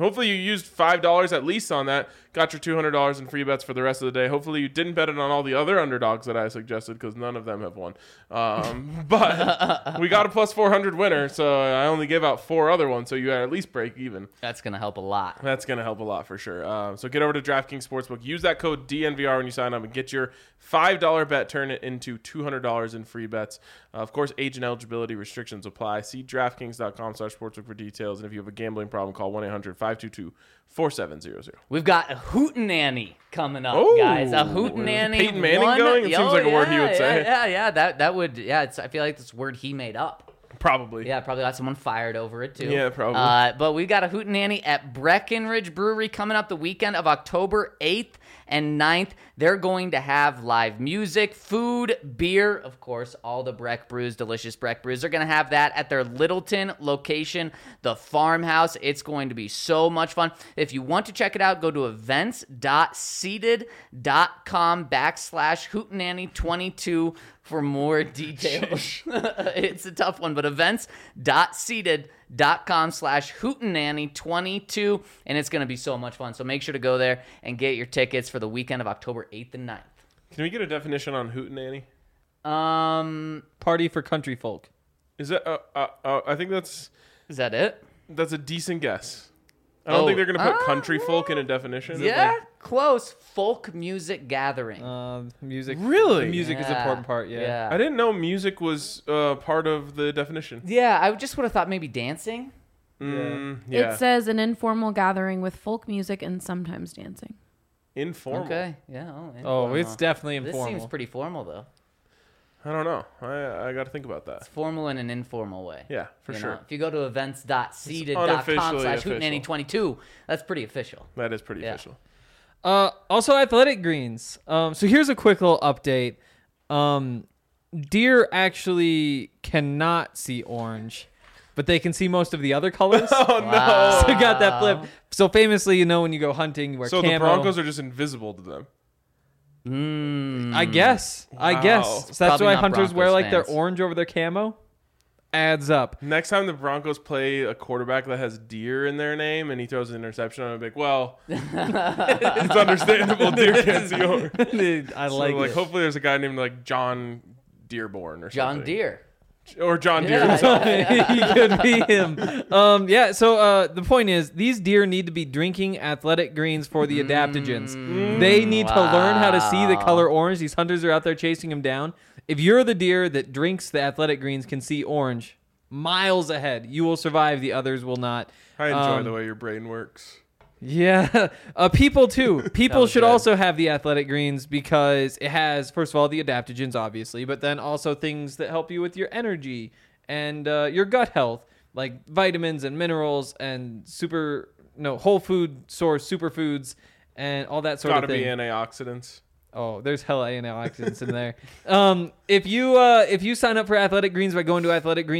Speaker 1: Hopefully you used $5 at least on that. Got your $200 in free bets for the rest of the day. Hopefully you didn't bet it on all the other underdogs that I suggested because none of them have won. But we got a plus 400 winner, so I only gave out 4 other ones, so you at least break even.
Speaker 2: That's going to help a lot.
Speaker 1: That's going to help a lot for sure. So get over to DraftKings Sportsbook. Use that code DNVR when you sign up and get your $5 bet. Turn it into $200 in free bets. Of course, age and eligibility restrictions apply. See DraftKings.com/sportsbook for details. And if you have a gambling problem, call 1-800-522-4700.
Speaker 2: We've got a hootenanny coming up,
Speaker 1: Oh,
Speaker 2: guys. A hootenanny.
Speaker 1: is Peyton Manning going? It seems like a word he would say.
Speaker 2: Yeah. That would. Yeah. I feel like this word he made up.
Speaker 1: Probably.
Speaker 2: Yeah, probably got someone fired over it too.
Speaker 1: Yeah, probably.
Speaker 2: But we got a hootenanny at Breckenridge Brewery coming up the weekend of October 8th and 9th. They're going to have live music, food, beer, of course, all the Breck brews, delicious Breck brews. They're going to have that at their Littleton location, the Farmhouse. It's going to be so much fun. If you want to check it out, go to events.seated.com/hootenanny22 for more details. It's a tough one, but events.seated.com/hootenanny22, and it's going to be so much fun. So make sure to go there and get your tickets for the weekend of October 8th and 9th.
Speaker 1: Can we get a definition on hootenanny?
Speaker 3: Party for country folk.
Speaker 1: Is that? I think
Speaker 2: Is that it?
Speaker 1: that's a decent guess. I don't think they're going to put country folk in a definition.
Speaker 2: Yeah, close. Folk music gathering.
Speaker 3: Music.
Speaker 1: Really?
Speaker 3: Music is an important part. Yeah.
Speaker 1: I didn't know music was part of the definition.
Speaker 2: Yeah, I just would have thought maybe dancing.
Speaker 1: Yeah.
Speaker 5: It says an informal gathering with folk music and sometimes dancing.
Speaker 1: Informal.
Speaker 2: Okay, yeah.
Speaker 3: Oh, it's definitely
Speaker 2: This
Speaker 3: informal.
Speaker 2: seems pretty formal, though.
Speaker 1: I don't know. I got to think about that.
Speaker 2: It's formal in an informal way.
Speaker 1: Yeah, for
Speaker 2: You
Speaker 1: sure.
Speaker 2: know, if you go to
Speaker 1: unofficially
Speaker 2: events.seated.com/hootenanny22, that's pretty official.
Speaker 1: That is pretty
Speaker 2: Yeah.
Speaker 1: official.
Speaker 3: Also, athletic greens. So here's a quick little update. Deer actually cannot see orange, but they can see most of the other colors.
Speaker 1: Oh, no.
Speaker 3: So got that flip. So famously, you know, when you go hunting, you wear
Speaker 1: So
Speaker 3: camo.
Speaker 1: the Broncos are just invisible to them.
Speaker 3: I guess. So that's
Speaker 2: Probably
Speaker 3: why
Speaker 2: not
Speaker 3: hunters wear
Speaker 2: Broncos
Speaker 3: like their
Speaker 2: fans.
Speaker 3: orange over their camo. Adds up.
Speaker 1: Next time the Broncos play a quarterback that has deer in their name and he throws an interception, I'm like, well, it's understandable. Deer can't see orange.
Speaker 3: I
Speaker 1: So,
Speaker 3: like it.
Speaker 1: hopefully there's a guy named like John Dearborn or something.
Speaker 2: John Deere.
Speaker 1: Or John Deere
Speaker 2: Yeah,
Speaker 1: himself.
Speaker 3: He could be him. So the point is, these deer need to be drinking athletic greens for the adaptogens. They need to learn how to see the color orange. These hunters are out there chasing them down. If you're the deer that drinks the athletic greens, can see orange, miles ahead. You will survive. The others will not.
Speaker 1: I enjoy the way your brain works.
Speaker 3: Yeah. People too. People
Speaker 2: was
Speaker 3: should
Speaker 2: good.
Speaker 3: also have the athletic greens because it has, first of all, the adaptogens, obviously, but then also things that help you with your energy and your gut health, like vitamins and minerals and whole food source superfoods and all that sort
Speaker 1: Gotta
Speaker 3: of thing.
Speaker 1: be antioxidants.
Speaker 3: Oh, there's hella antioxidants in there. If you sign up for Athletic Greens by going to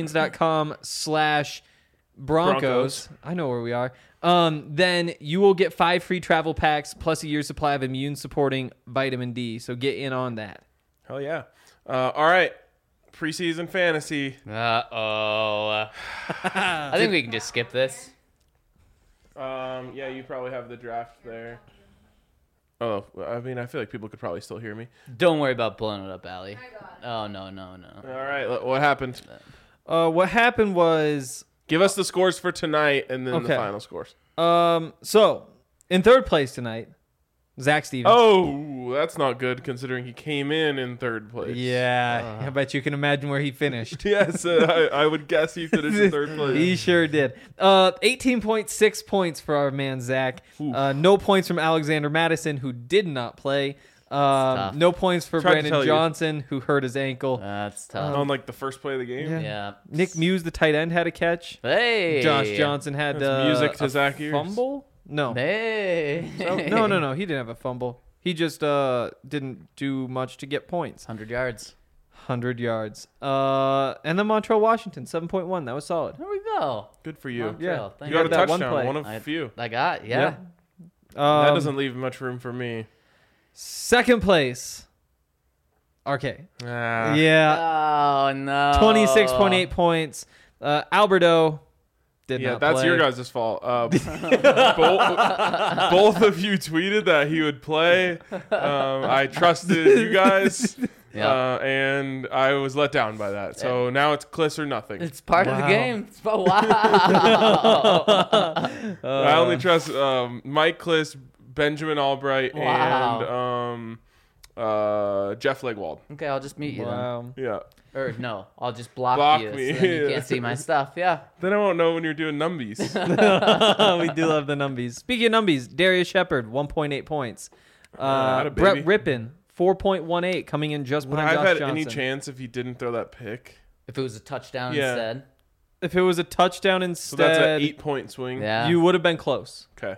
Speaker 3: athleticgreens.com/Broncos, I know where we are. Then you will get 5 free travel packs plus a year's supply of immune supporting vitamin D. So get in on that.
Speaker 1: Hell yeah. All right. Preseason fantasy.
Speaker 2: I think we can just skip this.
Speaker 1: Yeah, you probably have the draft there. Oh, I mean, I feel like people could probably still hear me.
Speaker 2: Don't worry about blowing it up, Allie. Oh, no.
Speaker 1: All right. What happened?
Speaker 3: What happened was,
Speaker 1: Give us the scores for tonight and then the
Speaker 3: Okay.
Speaker 1: final scores.
Speaker 3: so in third place tonight, Zach Stevens.
Speaker 1: Oh, that's not good considering he came in third place.
Speaker 3: Yeah, I bet you can imagine where he finished.
Speaker 1: Yes, I would guess he finished in third place.
Speaker 3: He sure did. 18.6 points for our man Zach. No points from Alexander Madison, who did not play.
Speaker 2: tough.
Speaker 3: No points for
Speaker 1: Tried to tell
Speaker 3: Brandon
Speaker 1: you.
Speaker 3: Johnson, who hurt his ankle.
Speaker 2: That's tough.
Speaker 1: On like the first play of the game.
Speaker 3: Yeah.
Speaker 2: Yeah.
Speaker 3: Nick Muse, the tight end, had a catch.
Speaker 2: Hey.
Speaker 3: Josh Johnson had
Speaker 1: That's music to
Speaker 3: a
Speaker 1: Zach ears.
Speaker 3: fumble. No.
Speaker 2: Hey.
Speaker 3: No. He didn't have a fumble. He just didn't do much to get points.
Speaker 2: 100 yards.
Speaker 3: 100 yards. And then Montreal Washington, 7.1. That was solid.
Speaker 2: There we go.
Speaker 1: Good for you.
Speaker 2: Montreal.
Speaker 3: Yeah.
Speaker 2: Thank
Speaker 1: You got a
Speaker 3: that one
Speaker 1: touchdown,
Speaker 3: play.
Speaker 1: one of few.
Speaker 2: I got, yeah.
Speaker 1: That doesn't leave much room for me.
Speaker 3: Second place. RK.
Speaker 1: Ah.
Speaker 3: Yeah.
Speaker 2: Oh, no.
Speaker 3: 26.8 points. Alberto did
Speaker 1: Yeah,
Speaker 3: not
Speaker 1: that's
Speaker 3: play.
Speaker 1: your guys' fault. Both of you tweeted that he would play. I trusted you guys,
Speaker 2: Yeah.
Speaker 1: and I was let down by that. So now it's Kliss or nothing.
Speaker 2: It's part of the
Speaker 3: Wow.
Speaker 2: game. Wow.
Speaker 1: I only trust Mike Kliss, Benjamin Albright,
Speaker 2: Wow.
Speaker 1: and Jeff Legwald.
Speaker 2: Okay, I'll just mute you
Speaker 3: Wow.
Speaker 1: Yeah.
Speaker 2: then. Or no, I'll just block
Speaker 1: Block
Speaker 2: you
Speaker 1: me.
Speaker 2: so then you can't see my stuff. Yeah.
Speaker 1: Then I won't know when you're doing numbies.
Speaker 3: We do love the numbies. Speaking of numbies, Darius Shepard, 1.8 points.
Speaker 1: Atta
Speaker 3: Brett
Speaker 1: baby.
Speaker 3: Rippin, 4.18, coming in just
Speaker 1: Would
Speaker 3: behind
Speaker 1: I have
Speaker 3: Josh
Speaker 1: had
Speaker 3: Johnson.
Speaker 1: any chance if he didn't throw that pick?
Speaker 2: If it was a touchdown
Speaker 1: Yeah.
Speaker 2: instead.
Speaker 3: If it was a touchdown
Speaker 1: So
Speaker 3: instead,
Speaker 1: that's an 8-point swing.
Speaker 2: Yeah.
Speaker 3: you would have been close.
Speaker 1: Okay.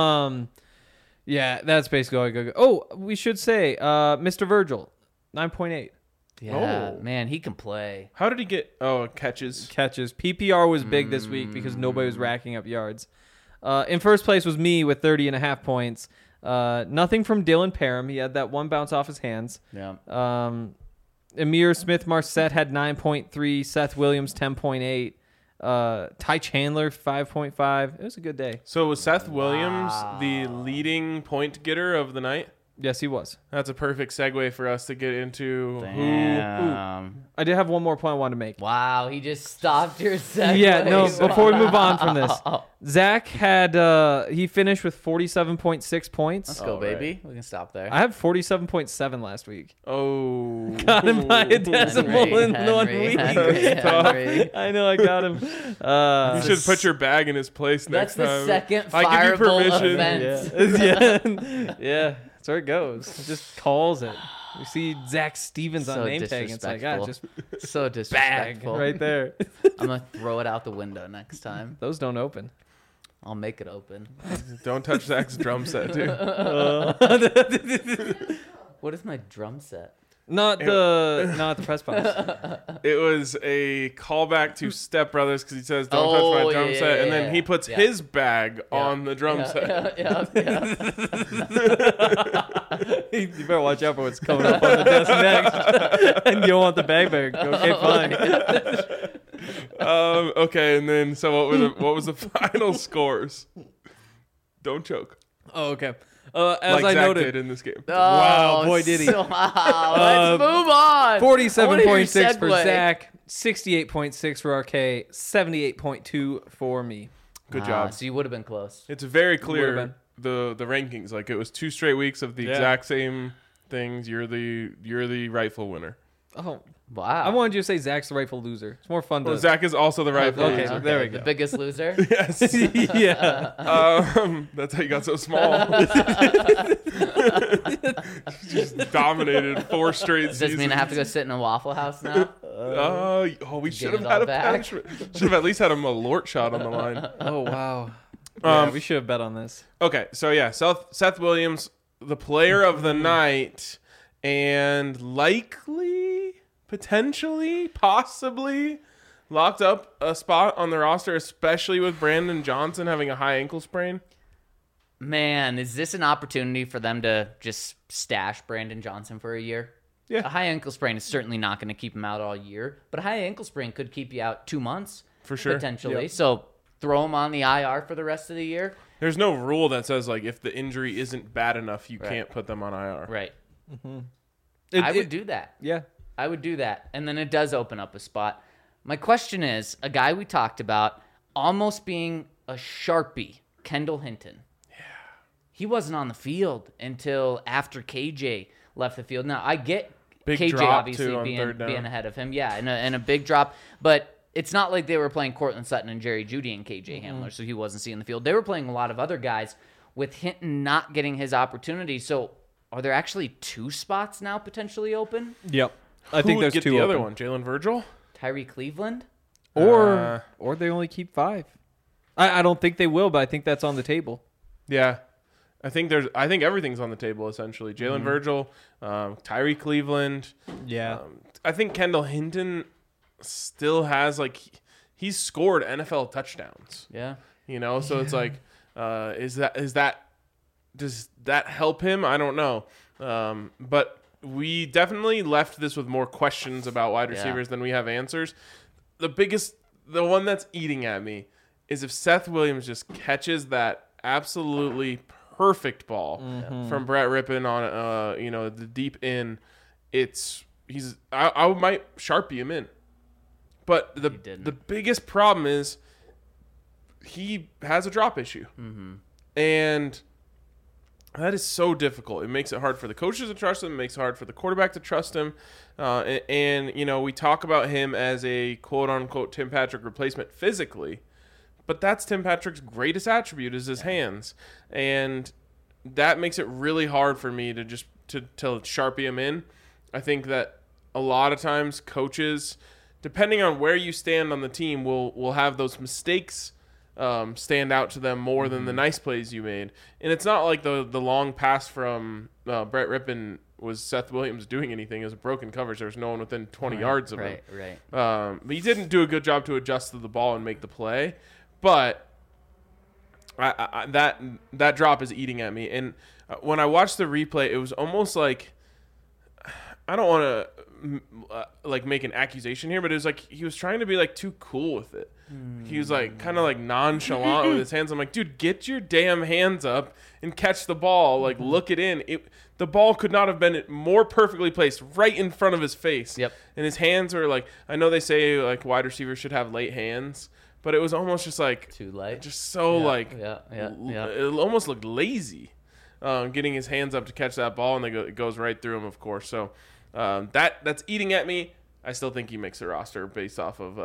Speaker 3: Yeah, that's basically all I got. Oh, we should say, Mr. Virgil, 9.8
Speaker 2: Yeah,
Speaker 1: Oh.
Speaker 2: man, he can play.
Speaker 1: How did he get? Oh, catches.
Speaker 3: catches. PPR was big this week because nobody was racking up yards. In first place was me with 30.5 points. Nothing from Dylan Parham. He had that one bounce off his hands.
Speaker 2: Yeah.
Speaker 3: Amir Smith-Marset had 9.3. Seth Williams, 10.8. Ty Chandler, 5.5. It was a good day.
Speaker 1: So was Seth Williams the leading point getter of the night?
Speaker 3: Yes, he was.
Speaker 1: That's a perfect segue for us to get into who.
Speaker 2: Damn.
Speaker 3: I did have one more point I wanted to make.
Speaker 2: Wow, he just stopped your segue.
Speaker 3: Yeah, no, before we move on from this.
Speaker 2: Wow.
Speaker 3: Zach had, he finished with 47.6 points.
Speaker 2: Let's go,
Speaker 1: All
Speaker 2: baby. We can stop there.
Speaker 3: I had 47.7 last week.
Speaker 1: Oh.
Speaker 3: Got him by a decimal in 1 week.
Speaker 2: Henry.
Speaker 3: I know, I got him.
Speaker 1: You should put your bag in his place
Speaker 2: That's
Speaker 1: next
Speaker 2: the
Speaker 1: time.
Speaker 2: second
Speaker 1: I give you
Speaker 2: fireable
Speaker 1: permission.
Speaker 2: event.
Speaker 3: Yeah, that's where it goes. It just calls it. You see Zach Stevens
Speaker 2: So
Speaker 3: on name tag, and it's like, ah, just
Speaker 2: So
Speaker 3: bag
Speaker 2: disrespectful.
Speaker 3: right there.
Speaker 2: I'm going to throw it out the window next time.
Speaker 3: Those don't open.
Speaker 2: I'll make it open.
Speaker 1: Don't touch Zach's drum set, too.
Speaker 2: What is my drum set?
Speaker 3: Not the press box.
Speaker 1: It was a callback to Step Brothers because he says, "Don't touch my drum
Speaker 2: yeah,
Speaker 1: set," and
Speaker 2: yeah,
Speaker 1: then
Speaker 2: yeah.
Speaker 1: he puts
Speaker 2: Yeah.
Speaker 1: his bag on the drum set.
Speaker 2: Yeah.
Speaker 3: You better watch out for what's coming up on the desk next. And you don't want the bag bag. Okay, fine.
Speaker 1: Okay, and then so what was the final scores? Don't choke.
Speaker 3: Oh, okay. As
Speaker 1: Like
Speaker 3: I
Speaker 1: Zach
Speaker 3: noted,
Speaker 1: did in this game.
Speaker 3: Wow, boy, did he.
Speaker 2: Wow, let's move on.
Speaker 3: 47.6 for
Speaker 2: Segue.
Speaker 3: Zach, 68.6 for RK, 78.2 for me.
Speaker 1: Good job.
Speaker 2: So you would have been close.
Speaker 1: It's very
Speaker 3: Would've
Speaker 1: clear the rankings. Like it was 2 straight weeks of the
Speaker 3: Yeah.
Speaker 1: exact same things. You're the rightful winner.
Speaker 3: Oh,
Speaker 2: Wow.
Speaker 3: I wanted you to say Zach's the rightful loser. It's more fun to.
Speaker 1: Well, Zach is also the rightful
Speaker 3: Okay.
Speaker 1: loser.
Speaker 3: There we
Speaker 2: The
Speaker 3: go.
Speaker 2: biggest loser.
Speaker 1: Yes.
Speaker 3: yeah.
Speaker 1: That's how you got so small. Just dominated 4 straight
Speaker 2: Does this
Speaker 1: seasons.
Speaker 2: mean I have to go sit in a Waffle House now?
Speaker 1: We should
Speaker 2: Get
Speaker 1: have
Speaker 2: it
Speaker 1: had
Speaker 2: all
Speaker 1: a
Speaker 2: back.
Speaker 1: punishment. Should have at least had a Malort shot on the line.
Speaker 3: Oh wow. Yeah,
Speaker 1: Um,
Speaker 3: we should have bet on this.
Speaker 1: Okay, so yeah, Seth Williams, the player of the night, and likely, potentially, possibly locked up a spot on the roster, especially with Brandon Johnson having a high ankle sprain.
Speaker 2: Man, is this an opportunity for them to just stash Brandon Johnson for a year?
Speaker 1: Yeah.
Speaker 2: A high ankle sprain is certainly not going to keep him out all year, but a high ankle sprain could keep you out 2 months.
Speaker 1: For sure.
Speaker 2: Potentially.
Speaker 1: Yep.
Speaker 2: So throw him on the IR for the rest of the year.
Speaker 1: There's no rule that says like if the injury isn't bad enough, you
Speaker 2: Right.
Speaker 1: can't put them on IR.
Speaker 2: Right.
Speaker 3: It-
Speaker 2: I would
Speaker 3: it-
Speaker 2: do that.
Speaker 3: Yeah.
Speaker 2: I would do that. And then it does open up a spot. My question is, a guy we talked about almost being a Sharpie, Kendall Hinton. Yeah. He wasn't on the field until after KJ left the field. Now, I get
Speaker 1: Big
Speaker 2: KJ
Speaker 1: drop,
Speaker 2: obviously
Speaker 1: too, on
Speaker 2: being
Speaker 1: third down.
Speaker 2: ahead of him. Yeah, and a big drop. But it's not like they were playing Cortland Sutton and Jerry Jeudy and KJ Hamler, so he wasn't seeing the field. They were playing a lot of other guys with Hinton not getting his opportunity. So are there actually 2 spots now potentially open?
Speaker 3: Yep. I
Speaker 1: Who
Speaker 3: think
Speaker 1: would
Speaker 3: there's
Speaker 1: get
Speaker 3: 2
Speaker 1: the other
Speaker 3: open.
Speaker 1: one? Jalen Virgil?
Speaker 2: Tyree Cleveland?
Speaker 3: Or they only keep 5. I don't think they will, but I think that's on the table.
Speaker 1: Yeah. I think everything's on the table essentially. Jalen Virgil, Tyree Cleveland.
Speaker 3: Yeah.
Speaker 1: I think Kendall Hinton still has like he's scored NFL touchdowns.
Speaker 2: Yeah.
Speaker 1: You know, so it's like, does that help him? I don't know. But we definitely left this with more questions about wide receivers than we have answers. The one that's eating at me is if Seth Williams just catches that absolutely perfect ball from Brett Rippon on the deep in, I might Sharpie him in. But the biggest problem is he has a drop issue. And that is so difficult. It makes it hard for the coaches to trust him. It makes it hard for the quarterback to trust him. And we talk about him as a quote-unquote Tim Patrick replacement physically. But that's Tim Patrick's greatest attribute is his hands. And that makes it really hard for me to just to Sharpie him in. I think that a lot of times coaches, depending on where you stand on the team, will have those mistakes stand out to them more than the nice plays you made. And it's not like the long pass from Brett Rippon was Seth Williams doing anything. It was a broken coverage. There was no one within 20 yards of him.
Speaker 2: Right.
Speaker 1: But he didn't do a good job to adjust to the ball and make the play. But that drop is eating at me. And when I watched the replay, it was almost like, I don't want to make an accusation here, but it was like he was trying to be like too cool with it. He was like kind of like nonchalant with his hands. I'm like, dude, get your damn hands up and catch the ball. Like, look it in. The ball could not have been more perfectly placed right in front of his face.
Speaker 2: Yep.
Speaker 1: And his hands were like, I know they say like wide receivers should have late hands, but it was almost just like
Speaker 2: too light.
Speaker 1: Just so
Speaker 2: Yeah.
Speaker 1: It almost looked lazy, getting his hands up to catch that ball, and it goes right through him, of course. So that's eating at me. I still think he makes the roster based off of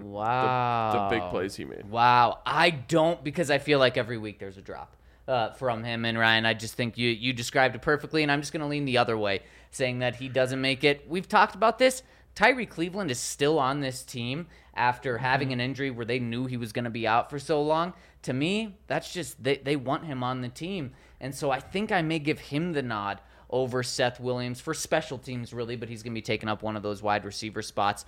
Speaker 1: the big plays he made.
Speaker 2: Wow. I don't, because I feel like every week there's a drop from him. And Ryan, I just think you described it perfectly, and I'm just going to lean the other way, saying that he doesn't make it. We've talked about this. Tyree Cleveland is still on this team after having an injury where they knew he was going to be out for so long. To me, that's just they want him on the team. And so I think I may give him the nod over Seth Williams for special teams, really, but he's going to be taking up one of those wide receiver spots.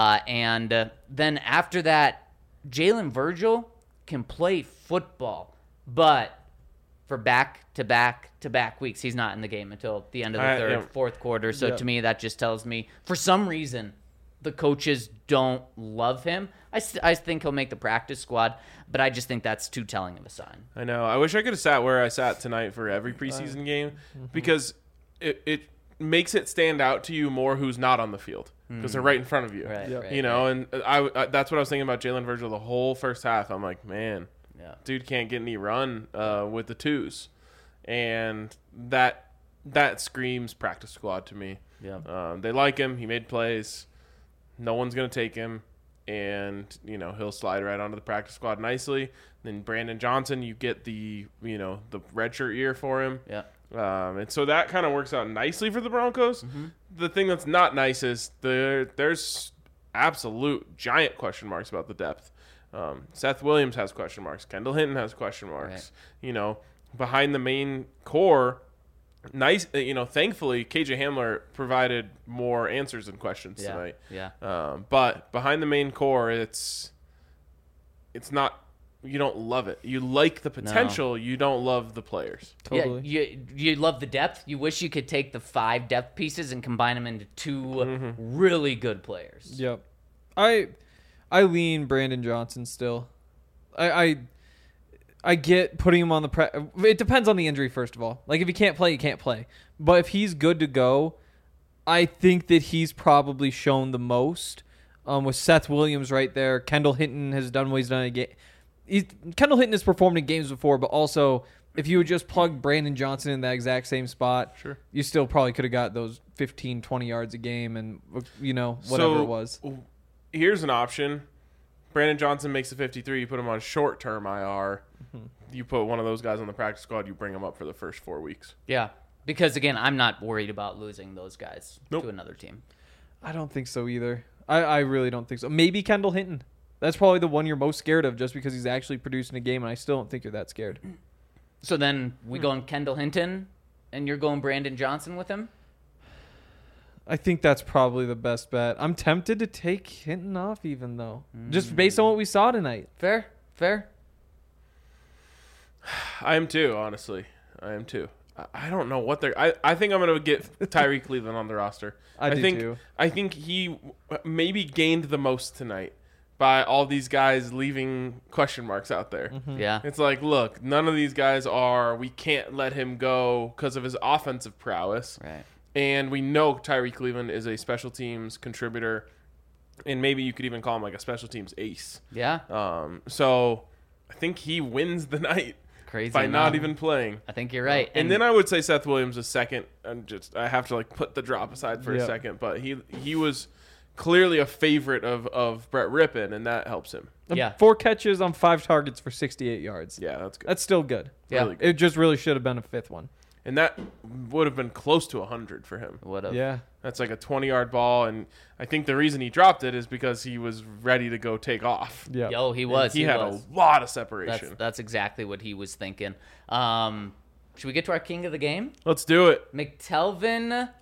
Speaker 2: And then after that, Jalen Virgil can play football, but for back-to-back weeks, he's not in the game until the end of the fourth quarter. So to me, that just tells me, for some reason, the coaches don't love him. I think he'll make the practice squad, but I just think that's too telling of a sign.
Speaker 1: I know. I wish I could have sat where I sat tonight for every preseason game, because it makes it stand out to you more who's not on the field, because they're right in front of you.
Speaker 2: Right,
Speaker 1: And I that's what I was thinking about Jalen Virgil the whole first half. I'm like, man, dude can't get any run with the twos, and that screams practice squad to me. They like him. He made plays. No one's gonna take him, and he'll slide right onto the practice squad nicely. Then Brandon Johnson, you get the redshirt year for him. And so that kind of works out nicely for the Broncos. The thing that's not nice is there's absolute giant question marks about the depth. Seth Williams has question marks. Kendall Hinton has question marks. Right. Behind the main core, thankfully KJ Hamler provided more answers and questions tonight. But behind the main core, it's not. You don't love it. You like the potential. No. You don't love the players.
Speaker 3: Totally.
Speaker 2: Yeah, you love the depth. You wish you could take the 5 depth pieces and combine them into 2 really good players.
Speaker 3: Yep. I lean Brandon Johnson still. I get putting him on the it depends on the injury, first of all. Like, if he can't play, he can't play. But if he's good to go, I think that he's probably shown the most. With Seth Williams right there, Kendall Hinton has done what he's done again. Kendall Hinton has performed in games before, but also if you would just plug Brandon Johnson in that exact same spot, you still probably could have got those 15, 20 yards a game and, whatever it was.
Speaker 1: Here's an option. Brandon Johnson makes the 53. You put him on short-term IR. You put one of those guys on the practice squad. You bring him up for the first 4 weeks.
Speaker 2: Yeah, because, again, I'm not worried about losing those guys to another team.
Speaker 3: I don't think so either. I really don't think so. Maybe Kendall Hinton. That's probably the one you're most scared of, just because he's actually producing a game, and I still don't think you're that scared.
Speaker 2: So then we going Kendall Hinton, and you're going Brandon Johnson with him?
Speaker 3: I think that's probably the best bet. I'm tempted to take Hinton off even, though. Just based on what we saw tonight.
Speaker 2: Fair.
Speaker 1: I am too, honestly. I am too. I don't know what they're... I think I'm going to get Tyree Cleveland on the roster.
Speaker 3: I do too.
Speaker 1: I think he maybe gained the most tonight, by all these guys leaving question marks out there.
Speaker 2: Yeah.
Speaker 1: It's like, look, none of these guys we can't let him go because of his offensive prowess.
Speaker 2: Right.
Speaker 1: And we know Tyree Cleveland is a special teams contributor, and maybe you could even call him like a special teams ace.
Speaker 2: Yeah.
Speaker 1: So I think he wins the night
Speaker 2: Crazy.
Speaker 1: by not
Speaker 2: enough.
Speaker 1: even playing.
Speaker 2: I think you're right.
Speaker 1: And then I would say Seth Williams is second. I have to like put the drop aside for a
Speaker 3: Yep.
Speaker 1: second, but he was clearly a favorite of Brett Rippon, and that helps him.
Speaker 2: Yeah.
Speaker 3: 4 catches on 5 targets for 68 yards.
Speaker 1: Yeah, that's good.
Speaker 3: That's still good.
Speaker 2: Yeah.
Speaker 1: Really good.
Speaker 3: It just really should have been a 5th one.
Speaker 1: And that would have been close to 100 for him.
Speaker 2: Would have.
Speaker 3: Yeah.
Speaker 1: That's like a 20-yard ball, and I think the reason he dropped it is because he was ready to go take off.
Speaker 3: Yeah.
Speaker 2: Yo, he was.
Speaker 1: He had
Speaker 2: was.
Speaker 1: a lot of separation.
Speaker 2: That's exactly what he was thinking. Should we get to our king of the game?
Speaker 1: Let's do it.
Speaker 2: McTelvin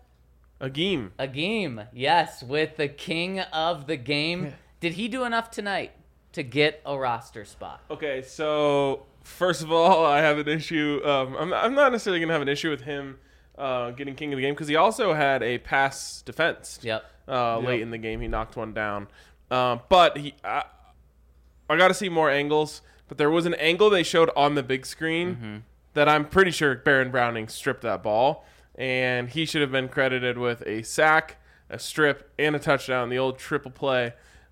Speaker 1: Agim.
Speaker 2: Yes, with the king of the game. Did he do enough tonight to get a roster spot?
Speaker 1: Okay, so first of all, I have an issue. I'm not necessarily going to have an issue with him getting king of the game because he also had a pass defense.
Speaker 2: Yep.
Speaker 1: Late in the game, he knocked one down. But I got to see more angles. But there was an angle they showed on the big screen that I'm pretty sure Baron Browning stripped that ball, and he should have been credited with a sack, a strip, and a touchdown. The old triple play.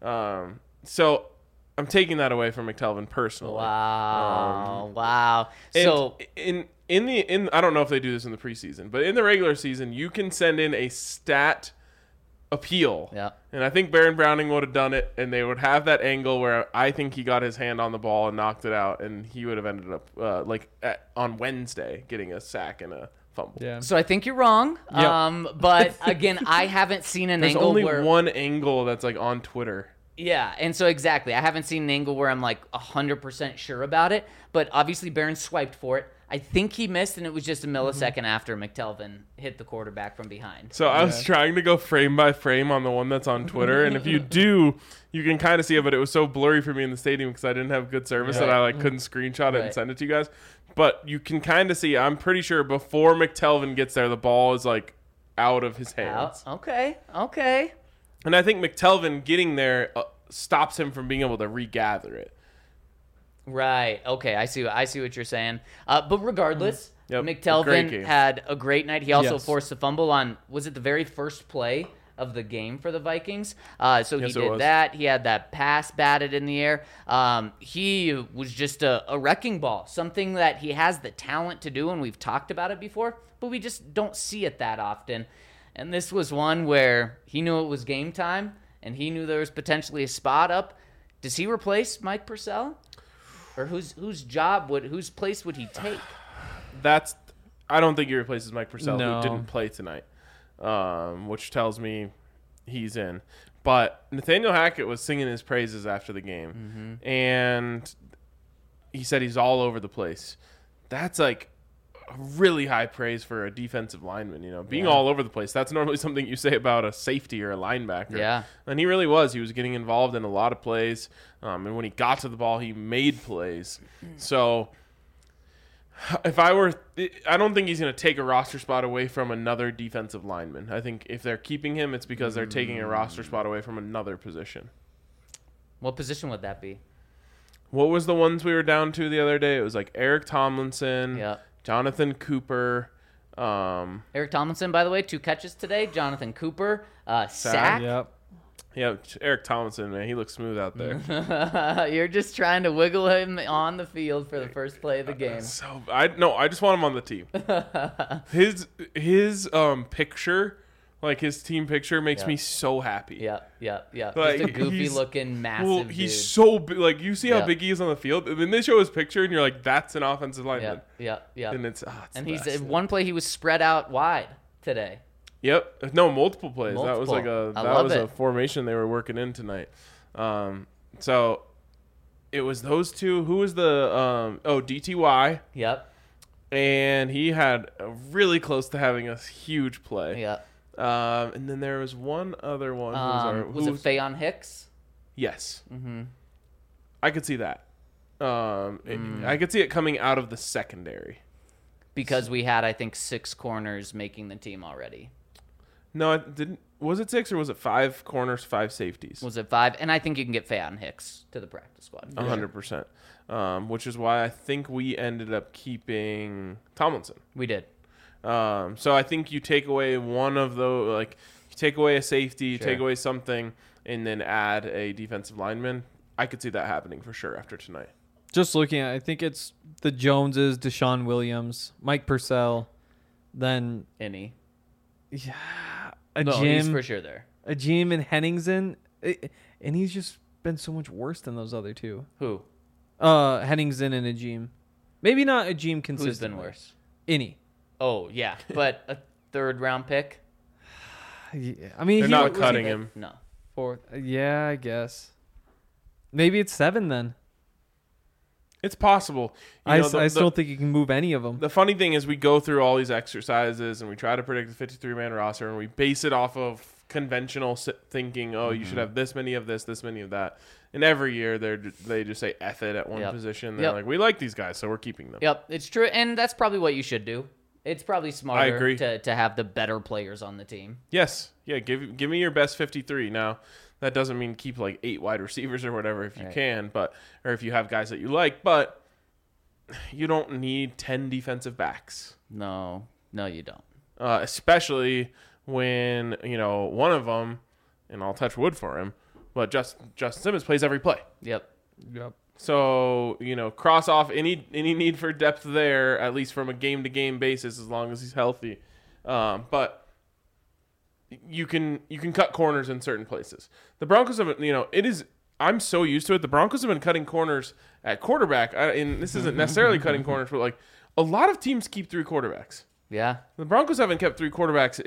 Speaker 1: So I'm taking that away from McTelvin personally.
Speaker 2: Wow. Wow.
Speaker 1: And
Speaker 2: So
Speaker 1: in I don't know if they do this in the preseason, but in the regular season, you can send in a stat appeal.
Speaker 2: Yeah.
Speaker 1: And I think Baron Browning would have done it, and they would have that angle where I think he got his hand on the ball and knocked it out, and he would have ended up on Wednesday getting a sack and a fumble.
Speaker 3: Yeah.
Speaker 2: So I think you're wrong.
Speaker 3: Yep.
Speaker 2: But again, I haven't seen an
Speaker 1: There's
Speaker 2: angle
Speaker 1: only
Speaker 2: where
Speaker 1: one angle that's like on Twitter.
Speaker 2: Yeah, and so exactly, I haven't seen an angle where I'm like 100% sure about it. But obviously, Barron swiped for it. I think he missed, and it was just a millisecond after McTelvin hit the quarterback from behind.
Speaker 1: So I was trying to go frame by frame on the one that's on Twitter, and if you do, you can kind of see it, but it was so blurry for me in the stadium because I didn't have good service that I like couldn't screenshot it and
Speaker 2: Right.
Speaker 1: send it to you guys. But you can kind of see, I'm pretty sure before McTelvin gets there, the ball is like out of his hands.
Speaker 2: Okay.
Speaker 1: And I think McTelvin getting there stops him from being able to regather it.
Speaker 2: Right. Okay. I see what you're saying. But regardless,
Speaker 1: Yep. Great
Speaker 2: McTelvin
Speaker 1: game.
Speaker 2: had a great night. He also
Speaker 3: Yes.
Speaker 2: forced a fumble on, was it the very first play of the game for the Vikings? So
Speaker 1: Yes,
Speaker 2: he
Speaker 1: it
Speaker 2: did
Speaker 1: was.
Speaker 2: that. He had that pass batted in the air. He was just a wrecking ball, something that he has the talent to do, and we've talked about it before, but we just don't see it that often. And this was one where he knew it was game time, and he knew there was potentially a spot up. Does he replace Mike Purcell? Or whose place would he take?
Speaker 1: I don't think he replaces Mike Purcell,
Speaker 3: No.
Speaker 1: who didn't play tonight, which tells me he's in. But Nathaniel Hackett was singing his praises after the game, and he said he's all over the place. That's like really high praise for a defensive lineman, being all over the place. That's normally something you say about a safety or a linebacker.
Speaker 2: Yeah.
Speaker 1: And he really was. He was getting involved in a lot of plays. And when he got to the ball, he made plays. So I don't think he's going to take a roster spot away from another defensive lineman. I think if they're keeping him, it's because they're taking a roster spot away from another position.
Speaker 2: What position would that be?
Speaker 1: What was the ones we were down to the other day? It was like Eric Tomlinson,
Speaker 2: Yeah.
Speaker 1: Jonathan Cooper.
Speaker 2: Eric Tomlinson, by the way, 2 catches today. Jonathan Cooper, sack.
Speaker 3: Yep.
Speaker 1: Yeah, Eric Tomlinson, man, he looks smooth out there.
Speaker 2: You're just trying to wiggle him on the field for the first play of the game.
Speaker 1: So I just want him on the team. His picture, like his team picture, makes me so happy.
Speaker 2: Yep.
Speaker 1: Like,
Speaker 2: Just a goofy
Speaker 1: he's-
Speaker 2: looking, massive
Speaker 1: Well,
Speaker 2: dude.
Speaker 1: he's so big. Like you see how
Speaker 2: Yeah.
Speaker 1: big he is on the field, and then they show his picture, and you're like, "That's an offensive lineman."
Speaker 2: Yep.
Speaker 1: And it's
Speaker 2: And
Speaker 1: the
Speaker 2: he's
Speaker 1: best.
Speaker 2: one play he was spread out wide today.
Speaker 1: Yep. No, multiple plays. That was
Speaker 2: Multiple.
Speaker 1: like
Speaker 2: I love
Speaker 1: a
Speaker 2: it.
Speaker 1: formation they were working in tonight. So it was those two. Who was the DTY?
Speaker 2: Yep.
Speaker 1: And he had really close to having a huge play.
Speaker 2: Yep.
Speaker 1: And then there was one other one.
Speaker 2: Was it Fayon Hicks?
Speaker 1: Yes. Mm-hmm. I could see that. I could see it coming out of the secondary.
Speaker 2: Because we had, I think, 6 corners making the team already.
Speaker 1: No, it didn't. Was it 6 or was it 5 corners, 5 safeties?
Speaker 2: Was it 5? And I think you can get Fayon Hicks to the practice squad.
Speaker 1: 100%. Which is why I think we ended up keeping Tomlinson.
Speaker 2: We did.
Speaker 1: So I think you take away one of those, like you take away a safety, you take away something, and then add a defensive lineman. I could see that happening for sure after tonight.
Speaker 3: Just looking at it, I think it's the Joneses, Deshaun Williams, Mike Purcell, then
Speaker 2: Any.
Speaker 3: he's
Speaker 2: He's for sure there.
Speaker 3: a Jim and Henningsen, and he's just been so much worse than those other two.
Speaker 2: Who?
Speaker 3: Henningsen and Ajim. Maybe not Ajim consistently.
Speaker 2: Who's been worse?
Speaker 3: Any.
Speaker 2: Oh, yeah. But a 3rd round pick?
Speaker 3: Yeah. I mean,
Speaker 1: They're
Speaker 3: he
Speaker 1: not
Speaker 3: was
Speaker 1: cutting him.
Speaker 2: No.
Speaker 3: 4th. Yeah, I guess. Maybe it's 7 then.
Speaker 1: It's possible.
Speaker 3: I still don't think you can move any of them.
Speaker 1: The funny thing is we go through all these exercises and we try to predict the 53-man roster and we base it off of conventional thinking, you should have this many of this many of that. And every year they just say F it at one position. They're like, we like these guys, so we're keeping them.
Speaker 2: Yep, it's true. And that's probably what you should do. It's probably smarter
Speaker 1: I agree.
Speaker 2: To have the better players on the team.
Speaker 1: Yes. Yeah, give me your best 53. Now, that doesn't mean keep like 8 wide receivers or whatever if you can, or if you have guys that you like, but you don't need 10 defensive backs.
Speaker 2: No, you don't.
Speaker 1: Especially when, one of them, and I'll touch wood for him, but Justin Simmons plays every play.
Speaker 2: Yep.
Speaker 1: So, cross off any need for depth there, at least from a game-to-game basis, as long as he's healthy. But you can cut corners in certain places. The Broncos have, I'm so used to it. The Broncos have been cutting corners at quarterback, and this isn't necessarily cutting corners, but like a lot of teams keep 3 quarterbacks.
Speaker 2: Yeah.
Speaker 1: The Broncos haven't kept 3 quarterbacks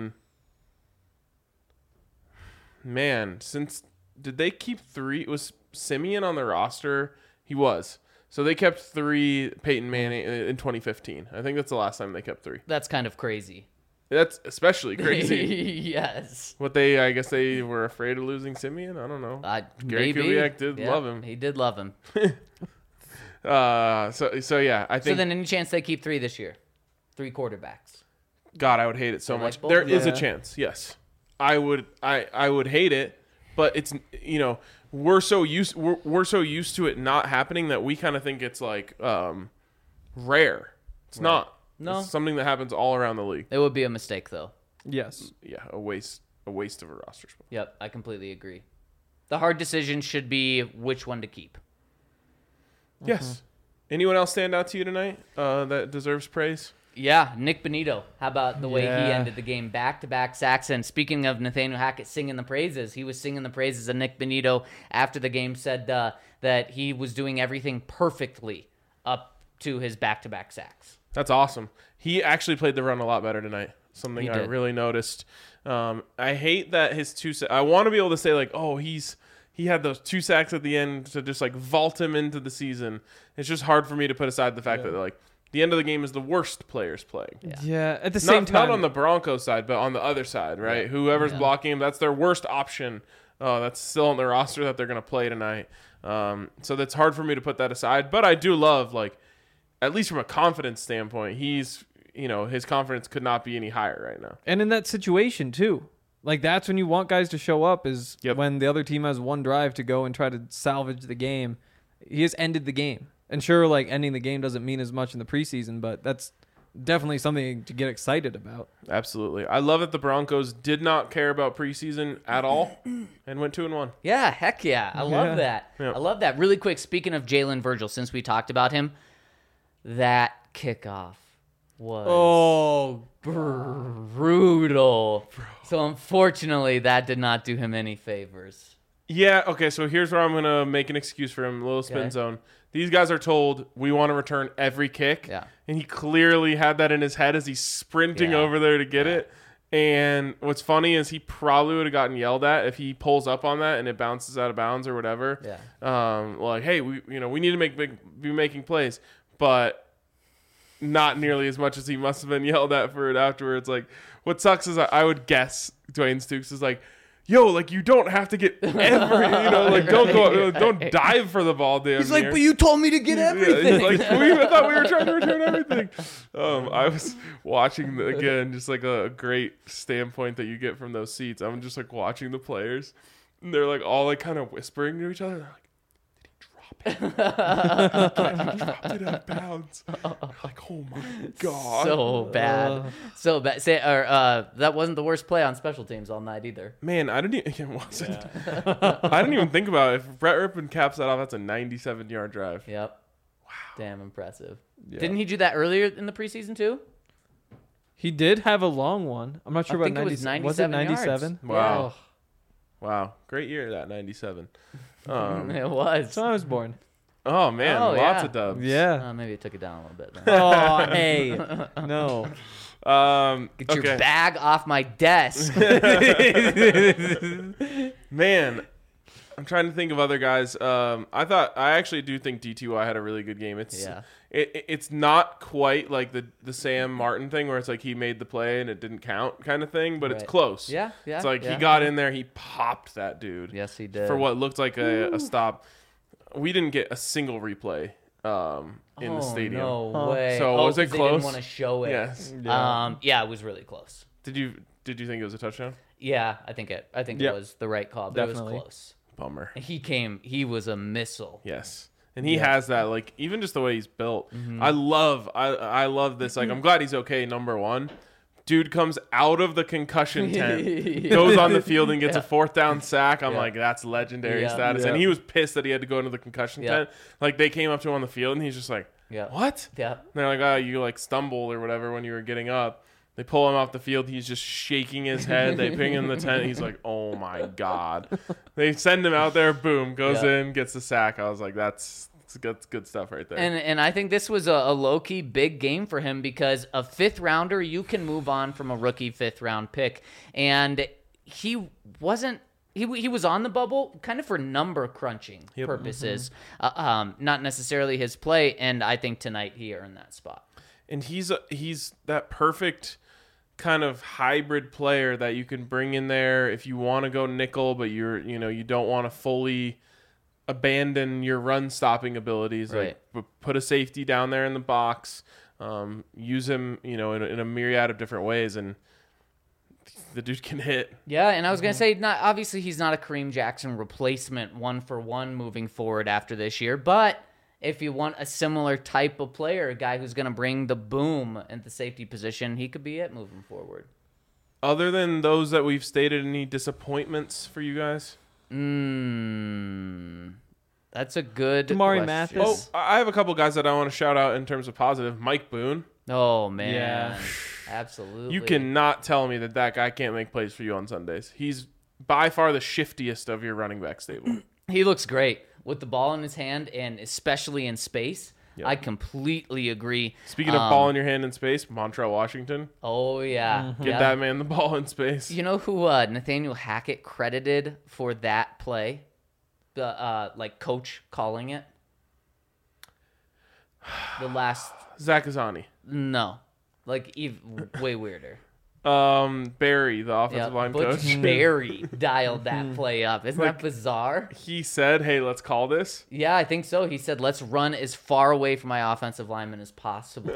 Speaker 1: since did they keep 3? Was Simeon on the roster? He was. So they kept 3 Peyton Manning in 2015. I think that's the last time they kept 3.
Speaker 2: That's kind of crazy.
Speaker 1: That's especially crazy.
Speaker 2: Yes.
Speaker 1: I guess they were afraid of losing Simeon? I don't know. Gary Kubiak did love him.
Speaker 2: He did love him.
Speaker 1: So yeah, I think.
Speaker 2: So then any chance they keep 3 this year? 3 quarterbacks.
Speaker 1: God, I would hate it so
Speaker 2: I like
Speaker 1: much.
Speaker 2: both
Speaker 1: There
Speaker 2: of
Speaker 1: is a
Speaker 3: them.
Speaker 1: chance, yes. I would hate it, but it's we're so used to it not happening that we kind of think it's like rare. It's not.
Speaker 2: No.
Speaker 1: It's something that happens all around the league.
Speaker 2: It would be a mistake though.
Speaker 3: Yes.
Speaker 1: Yeah, a waste of a roster spot.
Speaker 2: Yep, I completely agree. The hard decision should be which one to keep.
Speaker 1: Yes. Anyone else stand out to you tonight that deserves praise?
Speaker 2: Yeah, Nick Benito. How about the way he
Speaker 3: Yeah.
Speaker 2: ended the game? Back-to-back sacks. And speaking of Nathaniel Hackett singing the praises, he was singing the praises of Nick Benito after the game, said that he was doing everything perfectly up to his back-to-back sacks.
Speaker 1: That's awesome. He actually played the run a lot better tonight. Something
Speaker 2: He
Speaker 1: I
Speaker 2: did.
Speaker 1: really noticed. I hate that his 2 I want to be able to say like, oh, he had those 2 sacks at the end to just like vault him into the season. It's just hard for me to put aside the fact that like the end of the game is the worst players playing.
Speaker 3: Yeah. At the same time,
Speaker 1: Not on the Broncos side, but on the other side, right?
Speaker 2: Yeah.
Speaker 1: Whoever's
Speaker 2: Yeah.
Speaker 1: blocking him, that's their worst option. That's still on the roster that they're going to play tonight. So that's hard for me to put that aside. But I do love, like, at least from a confidence standpoint, his confidence could not be any higher right now.
Speaker 3: and in that situation too. Like that's when you want guys to show up is when the other team has one drive to go and try to salvage the game. He has ended the game. And sure, like ending the game doesn't mean as much in the preseason, but that's definitely something to get excited about.
Speaker 1: Absolutely. I love that the Broncos did not care about preseason at all and went 2-1.
Speaker 2: Yeah, heck yeah. I love that.
Speaker 1: Yeah.
Speaker 2: I love that. Really quick, speaking of Jalen Virgil, since we talked about him, that kickoff was brutal. So unfortunately, that did not do him any favors.
Speaker 1: Yeah, okay, so here's where I'm going to make an excuse for him, a little spin
Speaker 2: Okay.
Speaker 1: zone. These guys are told, we want to return every kick.
Speaker 2: Yeah.
Speaker 1: And he clearly had that in his head as he's sprinting
Speaker 2: Yeah.
Speaker 1: over there to get it. And what's funny is he probably would have gotten yelled at if he pulls up on that and it bounces out of bounds or whatever.
Speaker 2: Yeah.
Speaker 1: Like, hey, we need to be making plays. But not nearly as much as he must have been yelled at for it afterwards. Like, what sucks is I would guess Dwayne Stukes is like, yo, like you don't have to get like don't dive for the ball, damn
Speaker 2: He's like,
Speaker 1: near.
Speaker 2: but you told me to get
Speaker 1: Yeah,
Speaker 2: everything.
Speaker 1: he's like, we even thought we were trying to return everything. I was watching again, just like a great standpoint that you get from those seats. I'm just like watching the players, and they're like all like kind of whispering to each other. They're like, did he drop it? He dropped it out of bounds. Like, oh my god,
Speaker 2: So bad. So bad. That wasn't the worst play on special teams all night either.
Speaker 1: man. I didn't even. It wasn't. I didn't even think about it. If Brett Rippon caps that off, that's a 97-yard drive.
Speaker 2: Yep. Wow. Damn impressive.
Speaker 1: Yeah.
Speaker 2: Didn't he do that earlier in the preseason too?
Speaker 3: He did have a long one. I'm not sure
Speaker 2: I
Speaker 3: about
Speaker 2: think it was
Speaker 3: 97.
Speaker 2: 97
Speaker 3: Was it 97?
Speaker 2: yards.
Speaker 1: Wow.
Speaker 2: Yeah.
Speaker 1: Wow, great year that 97.
Speaker 2: It was.
Speaker 3: So I was born.
Speaker 1: Oh man,
Speaker 2: Oh,
Speaker 1: lots
Speaker 2: yeah.
Speaker 1: of dubs.
Speaker 3: Yeah.
Speaker 2: Maybe it took it down a little bit. Then.
Speaker 3: Oh, hey. No.
Speaker 2: Get your bag off my desk.
Speaker 1: Man, I'm trying to think of other guys. I actually do think DTY had a really good game. It's not quite like the Sam Martin thing where it's like he made the play and it didn't count kind of thing, but it's
Speaker 2: Right.
Speaker 1: close.
Speaker 2: Yeah.
Speaker 1: It's like he got in there, he popped that dude.
Speaker 2: Yes, he did.
Speaker 1: For what looked like a stop. We didn't get a single replay in the stadium.
Speaker 2: No way.
Speaker 1: So was it
Speaker 2: 'cause They
Speaker 1: close?
Speaker 2: didn't want to show it.
Speaker 1: Yes.
Speaker 2: Yeah, it was really close.
Speaker 1: Did you think it was a touchdown?
Speaker 2: Yeah, I think it
Speaker 3: Yep.
Speaker 2: was the right call, but
Speaker 3: Definitely.
Speaker 2: it was close.
Speaker 1: Bummer.
Speaker 2: He was a missile.
Speaker 1: Yes. And he has that, like, even just the way he's built. I love this. Like, I'm glad he's okay, number one. Dude comes out of the concussion tent, goes on the field and gets a 4th down sack. I'm like, that's legendary
Speaker 2: Yeah.
Speaker 1: status.
Speaker 3: Yeah.
Speaker 1: And he was pissed that he had to go into the concussion tent. Like, they came up to him on the field and he's just like,
Speaker 2: Yeah.
Speaker 1: what?
Speaker 2: Yeah.
Speaker 1: And they're like, oh, you like stumbled or whatever when you were getting up. They pull him off the field. He's just shaking his head. They ping him in the tent. He's like, oh my God. They send him out there. Boom. Goes in, gets the sack. I was like, that's good stuff right there.
Speaker 2: And I think this was a low-key big game for him because a 5th rounder, you can move on from a rookie 5th round pick. And he wasn't. He was on the bubble kind of for number crunching purposes, not necessarily his play. And I think tonight he earned that spot.
Speaker 1: And he's that perfect kind of hybrid player that you can bring in there if you want to go nickel, but you don't want to fully abandon your run stopping abilities.
Speaker 2: Right.
Speaker 1: Like put a safety down there in the box, use him, in a myriad of different ways, and the dude can hit.
Speaker 2: Yeah, and I was gonna say, obviously he's not a Kareem Jackson replacement 1-for-1 moving forward after this year, but if you want a similar type of player, a guy who's gonna bring the boom at the safety position, he could be it moving forward.
Speaker 1: Other than those that we've stated, any disappointments for you guys?
Speaker 2: That's a good
Speaker 3: Damari
Speaker 2: question.
Speaker 3: Mathis.
Speaker 1: Oh, I have a couple guys that I want to shout out in terms of positive. Mike Boone.
Speaker 2: Oh man,
Speaker 3: Yeah.
Speaker 2: absolutely.
Speaker 1: You cannot tell me that guy can't make plays for you on Sundays. He's by far the shiftiest of your running back stable.
Speaker 2: He looks great with the ball in his hand, and especially in space.
Speaker 1: Yep.
Speaker 2: I completely agree.
Speaker 1: Speaking of ball in your hand in space, Montrell Washington.
Speaker 2: Oh yeah,
Speaker 1: Get
Speaker 2: yeah.
Speaker 1: that man the ball in space.
Speaker 2: You know who Nathaniel Hackett credited for that play? The coach calling it. The last
Speaker 1: Zach Azani.
Speaker 2: no, way weirder.
Speaker 1: Barry, the offensive line
Speaker 2: Butch
Speaker 1: coach.
Speaker 2: Barry dialed that play up. Isn't that bizarre?
Speaker 1: He said, hey, let's call this.
Speaker 2: Yeah, I think so. He said, "Let's run as far away from my offensive lineman as possible."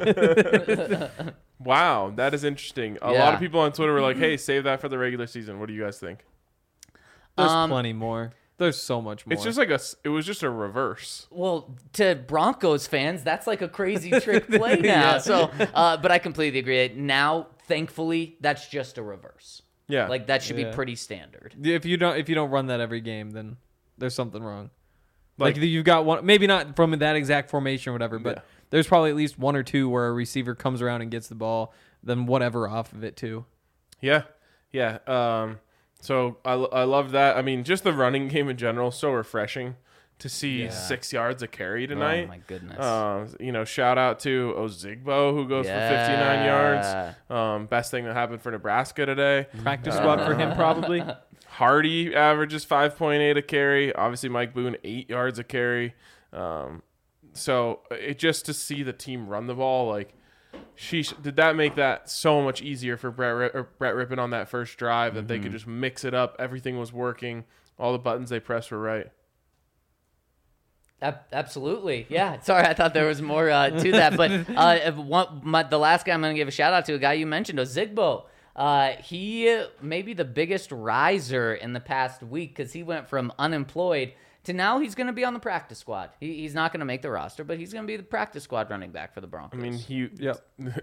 Speaker 1: Wow, that is interesting. A
Speaker 2: Yeah.
Speaker 1: lot of people on Twitter were like, hey, save that for the regular season. What do you guys think?
Speaker 3: There's plenty more. There's so much more.
Speaker 1: It's just it was just a reverse.
Speaker 2: Well, to Broncos fans, that's like a crazy trick play now.
Speaker 3: Yeah.
Speaker 2: So, but I completely agree. Now, thankfully, that's just a reverse.
Speaker 1: Yeah.
Speaker 2: Like that should be
Speaker 3: Yeah.
Speaker 2: pretty standard.
Speaker 3: if you don't run that every game, then there's something wrong. Like,
Speaker 1: Like-
Speaker 3: you've got one, maybe not from that exact formation or whatever, but
Speaker 1: Yeah.
Speaker 3: there's probably at least one or two where a receiver comes around and gets the ball, then whatever off of it too.
Speaker 1: Yeah. So I love that. I mean, just the running game in general, so refreshing to see 6 yards a carry tonight.
Speaker 2: Oh my goodness.
Speaker 1: Shout out to Ozigbo who goes for 59 yards. Best thing that happened for Nebraska today.
Speaker 3: Practice squad for him probably.
Speaker 1: Hardy averages 5.8 a carry. Obviously, Mike Boone 8 yards a carry. So it just to see the team run the ball, like did that make that so much easier for Brett Rippon on that first drive that they could just mix it up. Everything was working. All the buttons they pressed were right.
Speaker 2: Absolutely. Yeah. Sorry, I thought there was more to that. But the last guy I'm going to give a shout out to, a guy you mentioned, Ozigbo. He may be the biggest riser in the past week because he went from unemployed to now he's going to be on the practice squad. He's not going to make the roster, but he's going to be the practice squad running back for the Broncos.
Speaker 1: I mean,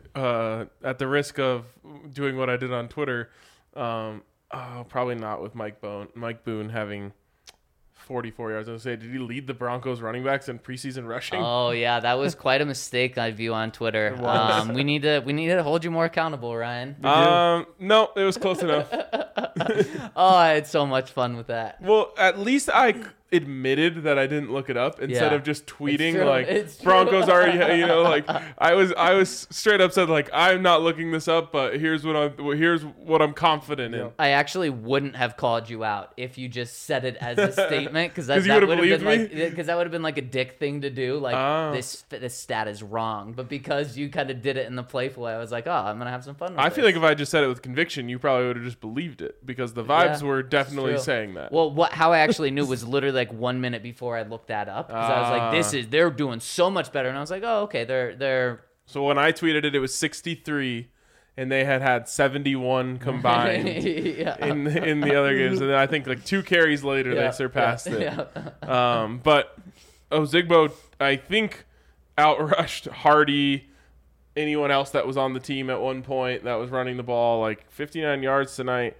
Speaker 1: at the risk of doing what I did on Twitter, probably not with Mike Boone having 44 yards. I was going to say, did he lead the Broncos running backs in preseason rushing?
Speaker 2: Oh yeah, that was quite a mistake I view on Twitter. We need to hold you more accountable, Ryan.
Speaker 1: No, it was close enough.
Speaker 2: Oh, I had so much fun with that.
Speaker 1: Well, at least I admitted that I didn't look it up instead of just tweeting
Speaker 2: It's
Speaker 1: Broncos already, like I was straight up said like I'm not looking this up, but here's what I'm confident in.
Speaker 2: I actually wouldn't have called you out if you just said it as a statement because that
Speaker 1: you would
Speaker 2: would
Speaker 1: have
Speaker 2: have
Speaker 1: believed
Speaker 2: been because that would have been like a dick thing to do. Like this stat is wrong, but because you kind of did it in the playful way, I was like, oh, I'm gonna have some fun with
Speaker 1: I feel like if I just said it with conviction, you probably would have just believed it because the vibes were definitely saying that.
Speaker 2: Well, how I actually knew was literally like 1 minute before I looked that up because I was like, they're doing so much better, and I was like, oh, okay, they're.
Speaker 1: So when I tweeted it, it was 63, and they had 71 combined in the other games, and then I think like 2 carries later they surpassed it. But Ozigbo, I think, outrushed Hardy, anyone else that was on the team at one point that was running the ball, like 59 yards tonight,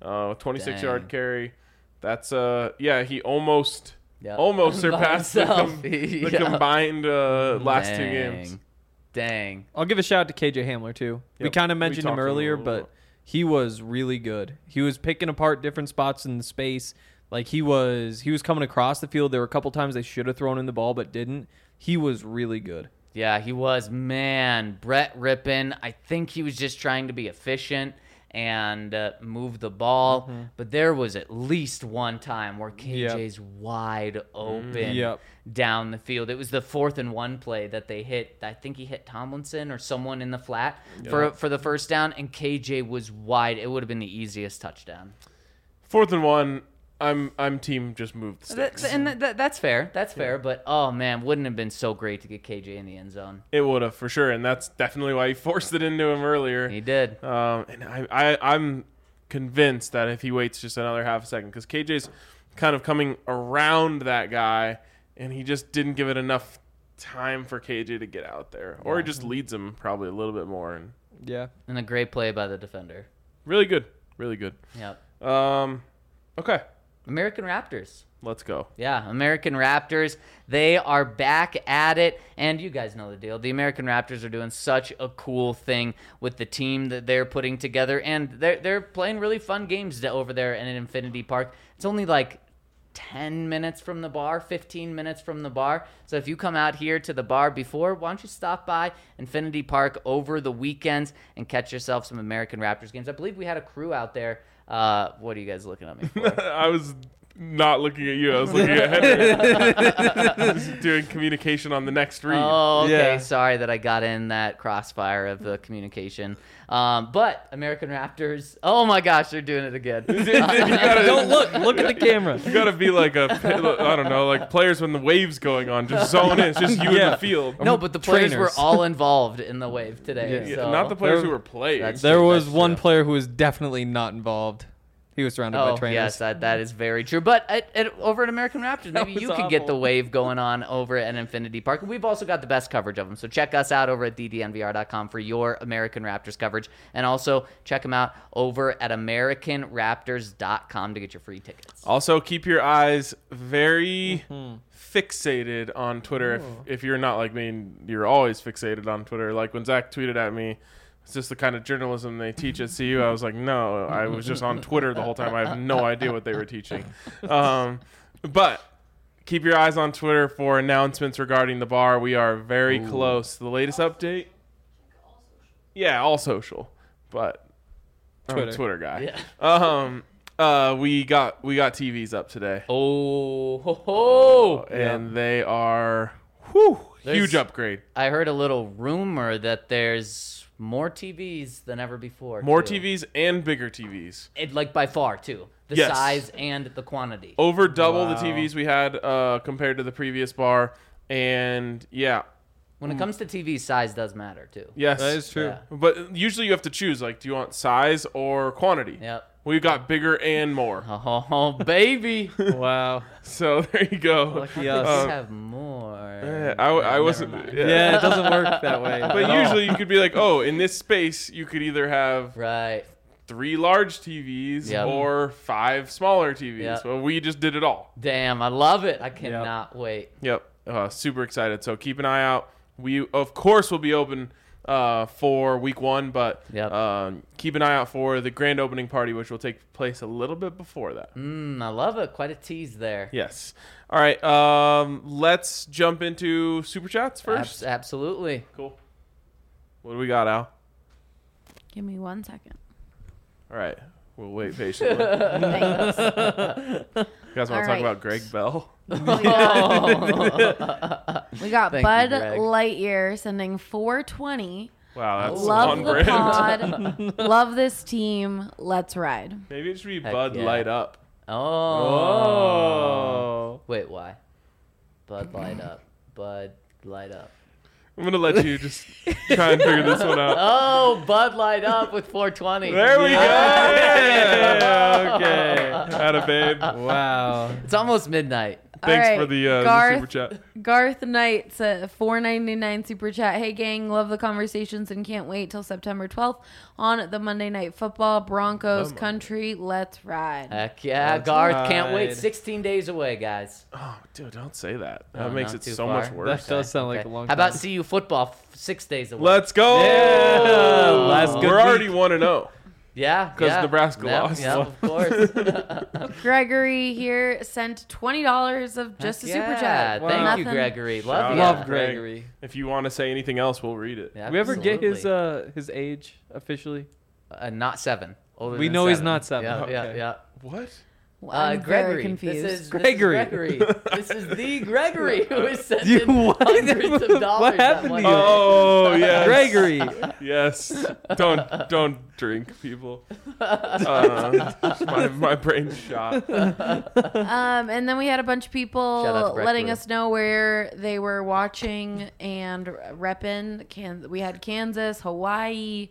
Speaker 1: 26-yard carry. That's he almost surpassed the combined last 2 games.
Speaker 2: Dang.
Speaker 3: I'll give a shout out to KJ Hamler too.
Speaker 1: Yep.
Speaker 3: We kind of mentioned him earlier,
Speaker 1: bit.
Speaker 3: but he was really good. He was picking apart different spots in the space. Like he was coming across the field. There were a couple times they should have thrown him the ball but didn't. He was really good.
Speaker 2: Yeah, he was. Man, Brett Rippon, I think he was just trying to be efficient and move the ball. But there was at least one time where KJ's wide open down the field. It was the 4th and 1 play that they hit. I think he hit Tomlinson or someone in the flat for the first down, and KJ was wide. It would have been the easiest touchdown.
Speaker 1: 4th and 1. I'm team just move the sticks.
Speaker 2: That's fair. That's fair. But, oh, man, wouldn't it have been so great to get KJ in the end zone?
Speaker 1: It would have, for sure. And that's definitely why he forced it into him earlier.
Speaker 2: He did.
Speaker 1: And I'm convinced that if he waits just another half a second, because KJ's kind of coming around that guy, and he just didn't give it enough time for KJ to get out there. Or he just leads him probably a little bit more.
Speaker 2: And a great play by the defender.
Speaker 1: Really good. Really good.
Speaker 2: Yep.
Speaker 1: Okay.
Speaker 2: American Raptors.
Speaker 1: Let's go.
Speaker 2: Yeah, American Raptors. They are back at it, and you guys know the deal. The American Raptors are doing such a cool thing with the team that they're putting together, and they're playing really fun games over there in Infinity Park. It's only like 10 minutes from the bar, 15 minutes from the bar. So if you come out here to the bar before, why don't you stop by Infinity Park over the weekends and catch yourself some American Raptors games. I believe we had a crew out there. What are you guys looking at me for?
Speaker 1: I was not looking at you. I was looking at Henry. I was doing communication on the next read.
Speaker 2: Oh, okay. Yeah. Sorry that I got in that crossfire of the communication. But American Raptors, oh my gosh, they're doing it again.
Speaker 3: Don't look at the camera.
Speaker 1: You gotta be like I don't know, like players when the wave's going on, just zone in. It's just you in the field.
Speaker 2: No, but the players were all involved in the wave today.
Speaker 1: Yeah.
Speaker 2: So.
Speaker 1: Not the players who were playing.
Speaker 3: There was one player who was definitely not involved. He was surrounded by trainers.
Speaker 2: Yes, that is very true. But over at American Raptors, maybe you could get the wave going on over at Infinity Park. We've also got the best coverage of them. So check us out over at ddnvr.com for your American Raptors coverage. And also check them out over at AmericanRaptors.com to get your free tickets.
Speaker 1: Also, keep your eyes very fixated on Twitter. If you're not like me and you're always fixated on Twitter. Like when Zach tweeted at me, it's just the kind of journalism they teach at CU. I was like, no, I was just on Twitter the whole time. I have no idea what they were teaching. But keep your eyes on Twitter for announcements regarding the bar. We are very close. The latest update? Yeah, all social. But I'm a Twitter guy. Yeah. We got TVs up today.
Speaker 2: Oh, ho, ho.
Speaker 1: And they are... Whew, Huge upgrade.
Speaker 2: I heard a little rumor that there's more TVs than ever before.
Speaker 1: More
Speaker 2: too.
Speaker 1: TVs and bigger TVs.
Speaker 2: Like by far too. The
Speaker 1: Yes.
Speaker 2: size and the quantity.
Speaker 1: Over double
Speaker 3: Wow.
Speaker 1: the TVs we had compared to the previous bar. And yeah.
Speaker 2: When it comes to TV, size does matter too.
Speaker 1: Yes.
Speaker 3: That is true.
Speaker 2: Yeah.
Speaker 1: But usually you have to choose, like, do you want size or quantity?
Speaker 2: Yep.
Speaker 1: We've got bigger and more.
Speaker 2: Oh, baby.
Speaker 3: Wow.
Speaker 1: So there you go.
Speaker 3: Lucky
Speaker 2: We
Speaker 3: us.
Speaker 2: have more.
Speaker 1: I wasn't.
Speaker 2: Never mind.
Speaker 3: Yeah, it doesn't work that way.
Speaker 1: But usually you could be like, oh, in this space, you could either have
Speaker 2: Right.
Speaker 1: 3 large TVs
Speaker 2: Yep.
Speaker 1: or 5 smaller TVs.
Speaker 2: Yep.
Speaker 1: Well, we just did it all.
Speaker 2: Damn, I love it. I cannot wait.
Speaker 1: Yep. Super excited. So keep an eye out. We, of course, will be open for week 1, but
Speaker 2: Yep.
Speaker 1: keep an eye out for the grand opening party, which will take place a little bit before that.
Speaker 2: I love it. Quite a tease there.
Speaker 1: Yes. All right. Let's jump into Super Chats first.
Speaker 2: Absolutely.
Speaker 1: Cool. What do we got, Al?
Speaker 5: Give me 1 second.
Speaker 1: All right. We'll wait patiently.
Speaker 5: Thanks.
Speaker 1: You guys want to talk
Speaker 5: All right.
Speaker 1: about Greg Bell?
Speaker 5: We got
Speaker 2: Thank you,
Speaker 5: Bud
Speaker 2: Greg.
Speaker 5: Lightyear sending 420.
Speaker 1: Wow, that's
Speaker 5: Love
Speaker 1: on
Speaker 5: the
Speaker 1: brand.
Speaker 5: pod. Love this team. Let's ride.
Speaker 1: Maybe it should be
Speaker 2: Heck
Speaker 1: Bud
Speaker 2: yeah.
Speaker 1: Light Up.
Speaker 2: Oh. Wait, why? Bud light up. Bud light up.
Speaker 1: I'm going to let you just try and figure this one out.
Speaker 2: Oh, Bud light up with 420.
Speaker 1: There we go.
Speaker 3: Yeah, okay.
Speaker 1: Atta babe.
Speaker 3: Wow.
Speaker 2: It's almost midnight.
Speaker 1: Thanks
Speaker 5: All right,
Speaker 1: for the
Speaker 5: Garth.
Speaker 1: super chat.
Speaker 5: Garth Knight said $4.99 super chat. Hey gang, love the conversations and can't wait till September 12th on the Monday Night Football Broncos country. Let's ride.
Speaker 2: Heck yeah,
Speaker 3: Let's
Speaker 2: Garth. Can't wait.
Speaker 3: ride.
Speaker 2: 16 days away, guys.
Speaker 1: Oh, dude, don't say that.
Speaker 2: Oh,
Speaker 1: That makes
Speaker 2: not
Speaker 1: it
Speaker 2: too
Speaker 1: so
Speaker 2: far.
Speaker 1: much worse.
Speaker 3: That does sound like a long
Speaker 2: How
Speaker 3: time.
Speaker 2: about CU football 6 days away?
Speaker 1: Let's go.
Speaker 3: Yeah, last good
Speaker 1: We're already
Speaker 3: week.
Speaker 1: 1-0.
Speaker 2: Yeah.
Speaker 1: 'Cause
Speaker 2: yeah.
Speaker 1: Nebraska
Speaker 2: Yep,
Speaker 1: lost.
Speaker 2: Yep, of course.
Speaker 5: Gregory here sent $20 of just a super chat.
Speaker 2: Thank
Speaker 3: Wow.
Speaker 2: you,
Speaker 5: Nothing.
Speaker 2: Gregory.
Speaker 1: Shout
Speaker 2: Love
Speaker 1: out.
Speaker 2: you.
Speaker 3: Love
Speaker 1: Greg.
Speaker 3: Gregory.
Speaker 1: If you want to say anything else, we'll read it.
Speaker 3: We ever get
Speaker 2: Absolutely.
Speaker 3: his age officially?
Speaker 2: Not 7. Older
Speaker 3: We
Speaker 2: than
Speaker 3: know he's
Speaker 2: 7.
Speaker 3: not 7.
Speaker 2: Yeah,
Speaker 3: Okay.
Speaker 2: yeah.
Speaker 1: What?
Speaker 5: I'm
Speaker 2: Gregory.
Speaker 5: very confused.
Speaker 2: This is
Speaker 3: Gregory.
Speaker 2: Gregory. This is the Gregory who is
Speaker 3: You-
Speaker 2: sending
Speaker 3: what?
Speaker 2: hundreds of dollars.
Speaker 3: What
Speaker 2: that
Speaker 3: happened
Speaker 2: one
Speaker 3: to you?
Speaker 2: day.
Speaker 1: Oh, yes.
Speaker 3: Gregory.
Speaker 1: Yes. Don't drink, people. My brain's shot.
Speaker 5: And then we had a bunch of
Speaker 2: Shout out
Speaker 5: people
Speaker 2: to Breck
Speaker 5: letting
Speaker 2: Brew.
Speaker 5: us know where they were watching and repping. We had Kansas, Hawaii,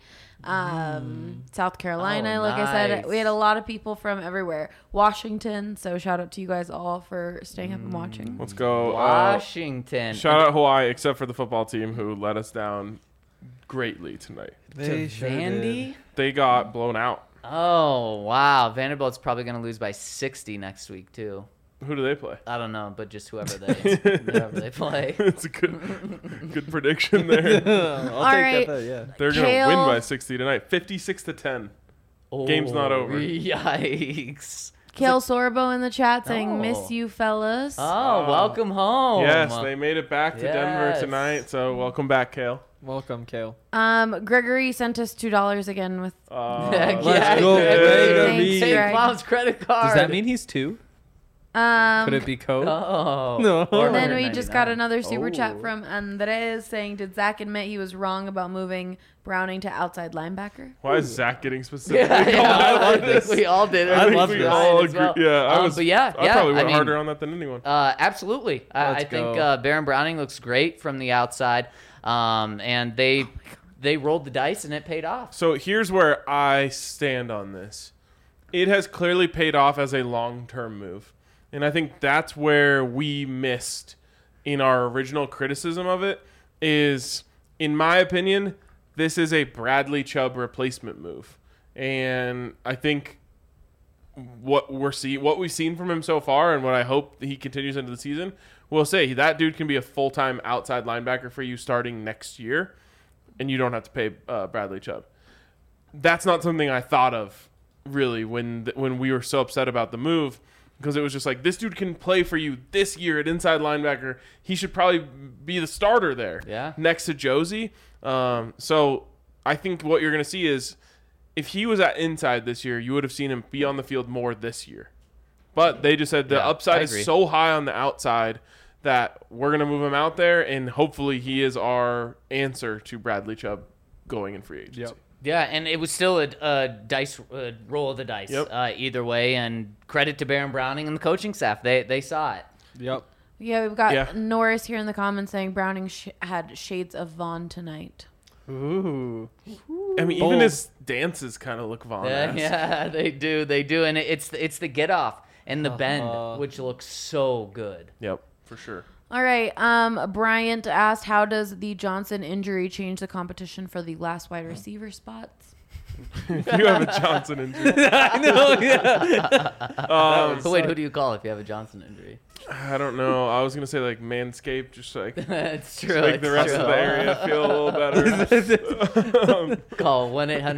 Speaker 5: South Carolina.
Speaker 2: Oh,
Speaker 5: like I said,
Speaker 2: nice.
Speaker 5: we had a lot of people from everywhere. Washington. So shout out to you guys all for staying up and watching.
Speaker 1: Let's go.
Speaker 2: Washington.
Speaker 1: Shout out Hawaii, except for the football team who let us down greatly tonight.
Speaker 3: They
Speaker 2: to
Speaker 3: sure
Speaker 2: Vandy.
Speaker 3: did.
Speaker 1: They got blown out.
Speaker 2: Oh wow, Vanderbilt's probably going to lose by 60 next week too.
Speaker 1: Who do they play?
Speaker 2: I don't know, but just whoever they play.
Speaker 1: It's a good prediction there.
Speaker 3: I'll
Speaker 5: All
Speaker 3: take
Speaker 5: right.
Speaker 3: that. Yeah.
Speaker 1: They're gonna
Speaker 5: Kale-
Speaker 1: win by 60 tonight, 56-10. Game's not over.
Speaker 2: Yikes.
Speaker 5: Kale Sorbo in the chat saying,
Speaker 2: Oh.
Speaker 5: "Miss you, fellas."
Speaker 2: Oh, welcome home.
Speaker 1: Yes, they made it back to Denver
Speaker 2: Yes.
Speaker 1: tonight. So welcome back, Kale.
Speaker 3: Welcome, Kale.
Speaker 5: Gregory sent us $2 again with.
Speaker 2: Heck
Speaker 3: Let's
Speaker 2: yeah,
Speaker 3: go,
Speaker 2: Gregory.
Speaker 5: Thanks,
Speaker 2: Take
Speaker 5: Greg.
Speaker 2: Mom's credit card.
Speaker 3: Does that mean he's 2? Could it be code?
Speaker 2: Oh.
Speaker 3: No.
Speaker 2: Or
Speaker 5: And then we just got
Speaker 2: 199.
Speaker 5: another super chat
Speaker 3: Oh.
Speaker 5: from Andres saying, "Did Zach admit he was wrong about moving Browning to outside linebacker?"
Speaker 1: Why is Zach getting specific?
Speaker 2: Yeah,
Speaker 3: I love
Speaker 2: think
Speaker 3: this.
Speaker 2: we all did.
Speaker 1: I think
Speaker 3: love
Speaker 1: we
Speaker 3: this.
Speaker 1: all
Speaker 2: as
Speaker 1: agree.
Speaker 2: well.
Speaker 1: Yeah,
Speaker 2: But yeah,
Speaker 1: I probably went
Speaker 2: mean,
Speaker 1: harder on that than anyone.
Speaker 2: Absolutely. I
Speaker 3: Let's
Speaker 2: think
Speaker 3: go.
Speaker 2: Baron Browning looks great from the outside, and they rolled the dice and it paid off.
Speaker 1: So here's where I stand on this. It has clearly paid off as a long-term move. And I think that's where we missed in our original criticism of it is, in my opinion, this is a Bradley Chubb replacement move. And I think what we've seen from him so far and what I hope he continues into the season, will say that dude can be a full-time outside linebacker for you starting next year, and you don't have to pay Bradley Chubb. That's not something I thought of really when we were so upset about the move, because it was just like, this dude can play for you this year at inside linebacker. He should probably be the starter there,
Speaker 2: Yeah.
Speaker 1: next to Josie. So I think what you're going to see is, if he was at inside this year, you would have seen him be on the field more this year. But they just said the
Speaker 2: Yeah,
Speaker 1: upside
Speaker 2: I
Speaker 1: is
Speaker 2: agree.
Speaker 1: so high on the outside that we're going to move him out there, and hopefully he is our answer to Bradley Chubb going in free agency.
Speaker 3: Yep.
Speaker 2: Yeah, and it was still a dice roll of the dice either way. And credit to Baron Browning and the coaching staff; they saw it.
Speaker 3: Yep.
Speaker 5: Yeah, we've got
Speaker 1: Yeah.
Speaker 5: Norris here in the comments saying Browning had shades of Vaughn tonight.
Speaker 3: Ooh.
Speaker 1: I mean, even his dances kind of look Vaughn-esque.
Speaker 2: Yeah, they do, and it's the get off and the bend, which looks so good.
Speaker 1: Yep, for sure.
Speaker 5: All right. Bryant asked, how does the Johnson injury change the competition for the last wide receiver spots?
Speaker 1: You have a Johnson injury.
Speaker 3: I know, yeah.
Speaker 2: So wait, who do you call if you have a Johnson injury?
Speaker 1: I don't know. I was going to say like Manscaped, just like
Speaker 2: It's true.
Speaker 1: make the rest of the area feel a little better.
Speaker 2: Call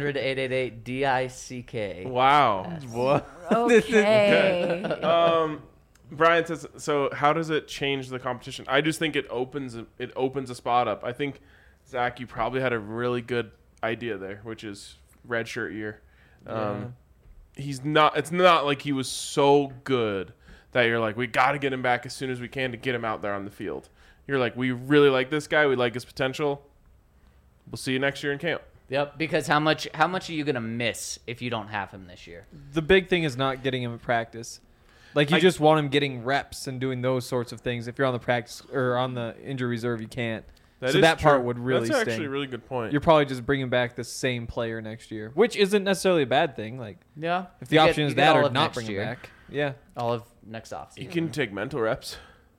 Speaker 2: 1-800-888-DICK.
Speaker 1: Wow.
Speaker 3: What?
Speaker 5: Okay.
Speaker 1: Brian says, so how does it change the competition? I just think it opens a spot up. I think, Zach, you probably had a really good idea there, which is redshirt year. It's not like he was so good that you're like, we got to get him back as soon as we can to get him out there on the field. You're like, we really like this guy. We like his potential. We'll see you next year in camp.
Speaker 2: Yep, because how much are you going to miss if you don't have him this year?
Speaker 3: The big thing is not getting him in practice. Like, you just want him getting reps and doing those sorts of things. If you're on the practice or on the injury reserve, you can't. That part would really
Speaker 1: That's
Speaker 3: sting.
Speaker 1: actually a really good point.
Speaker 3: You're probably just bringing back the same player next year, which isn't necessarily a bad thing. Like,
Speaker 2: Yeah.
Speaker 3: if the option is that or not
Speaker 2: next
Speaker 3: bring him
Speaker 2: year.
Speaker 3: back. Yeah.
Speaker 2: All of next offseason.
Speaker 1: You can take mental reps.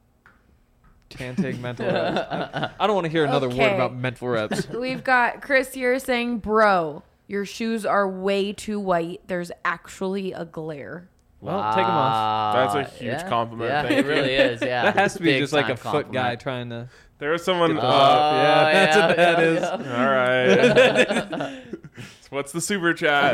Speaker 3: Can't take mental reps. I don't want to hear another word
Speaker 5: Okay.
Speaker 3: about mental reps.
Speaker 5: We've got Chris here saying, bro, your shoes are way too white. There's actually a glare.
Speaker 3: Well, take 'em off.
Speaker 1: That's a huge compliment.
Speaker 2: Yeah,
Speaker 1: Thank
Speaker 2: it
Speaker 1: you.
Speaker 2: really is. Yeah,
Speaker 3: That has to be
Speaker 2: Big
Speaker 3: just like
Speaker 2: time
Speaker 3: a foot guy
Speaker 2: compliment.
Speaker 3: trying to.
Speaker 1: There was someone.
Speaker 3: yeah, that's what that is.
Speaker 1: All right. What's the super chat?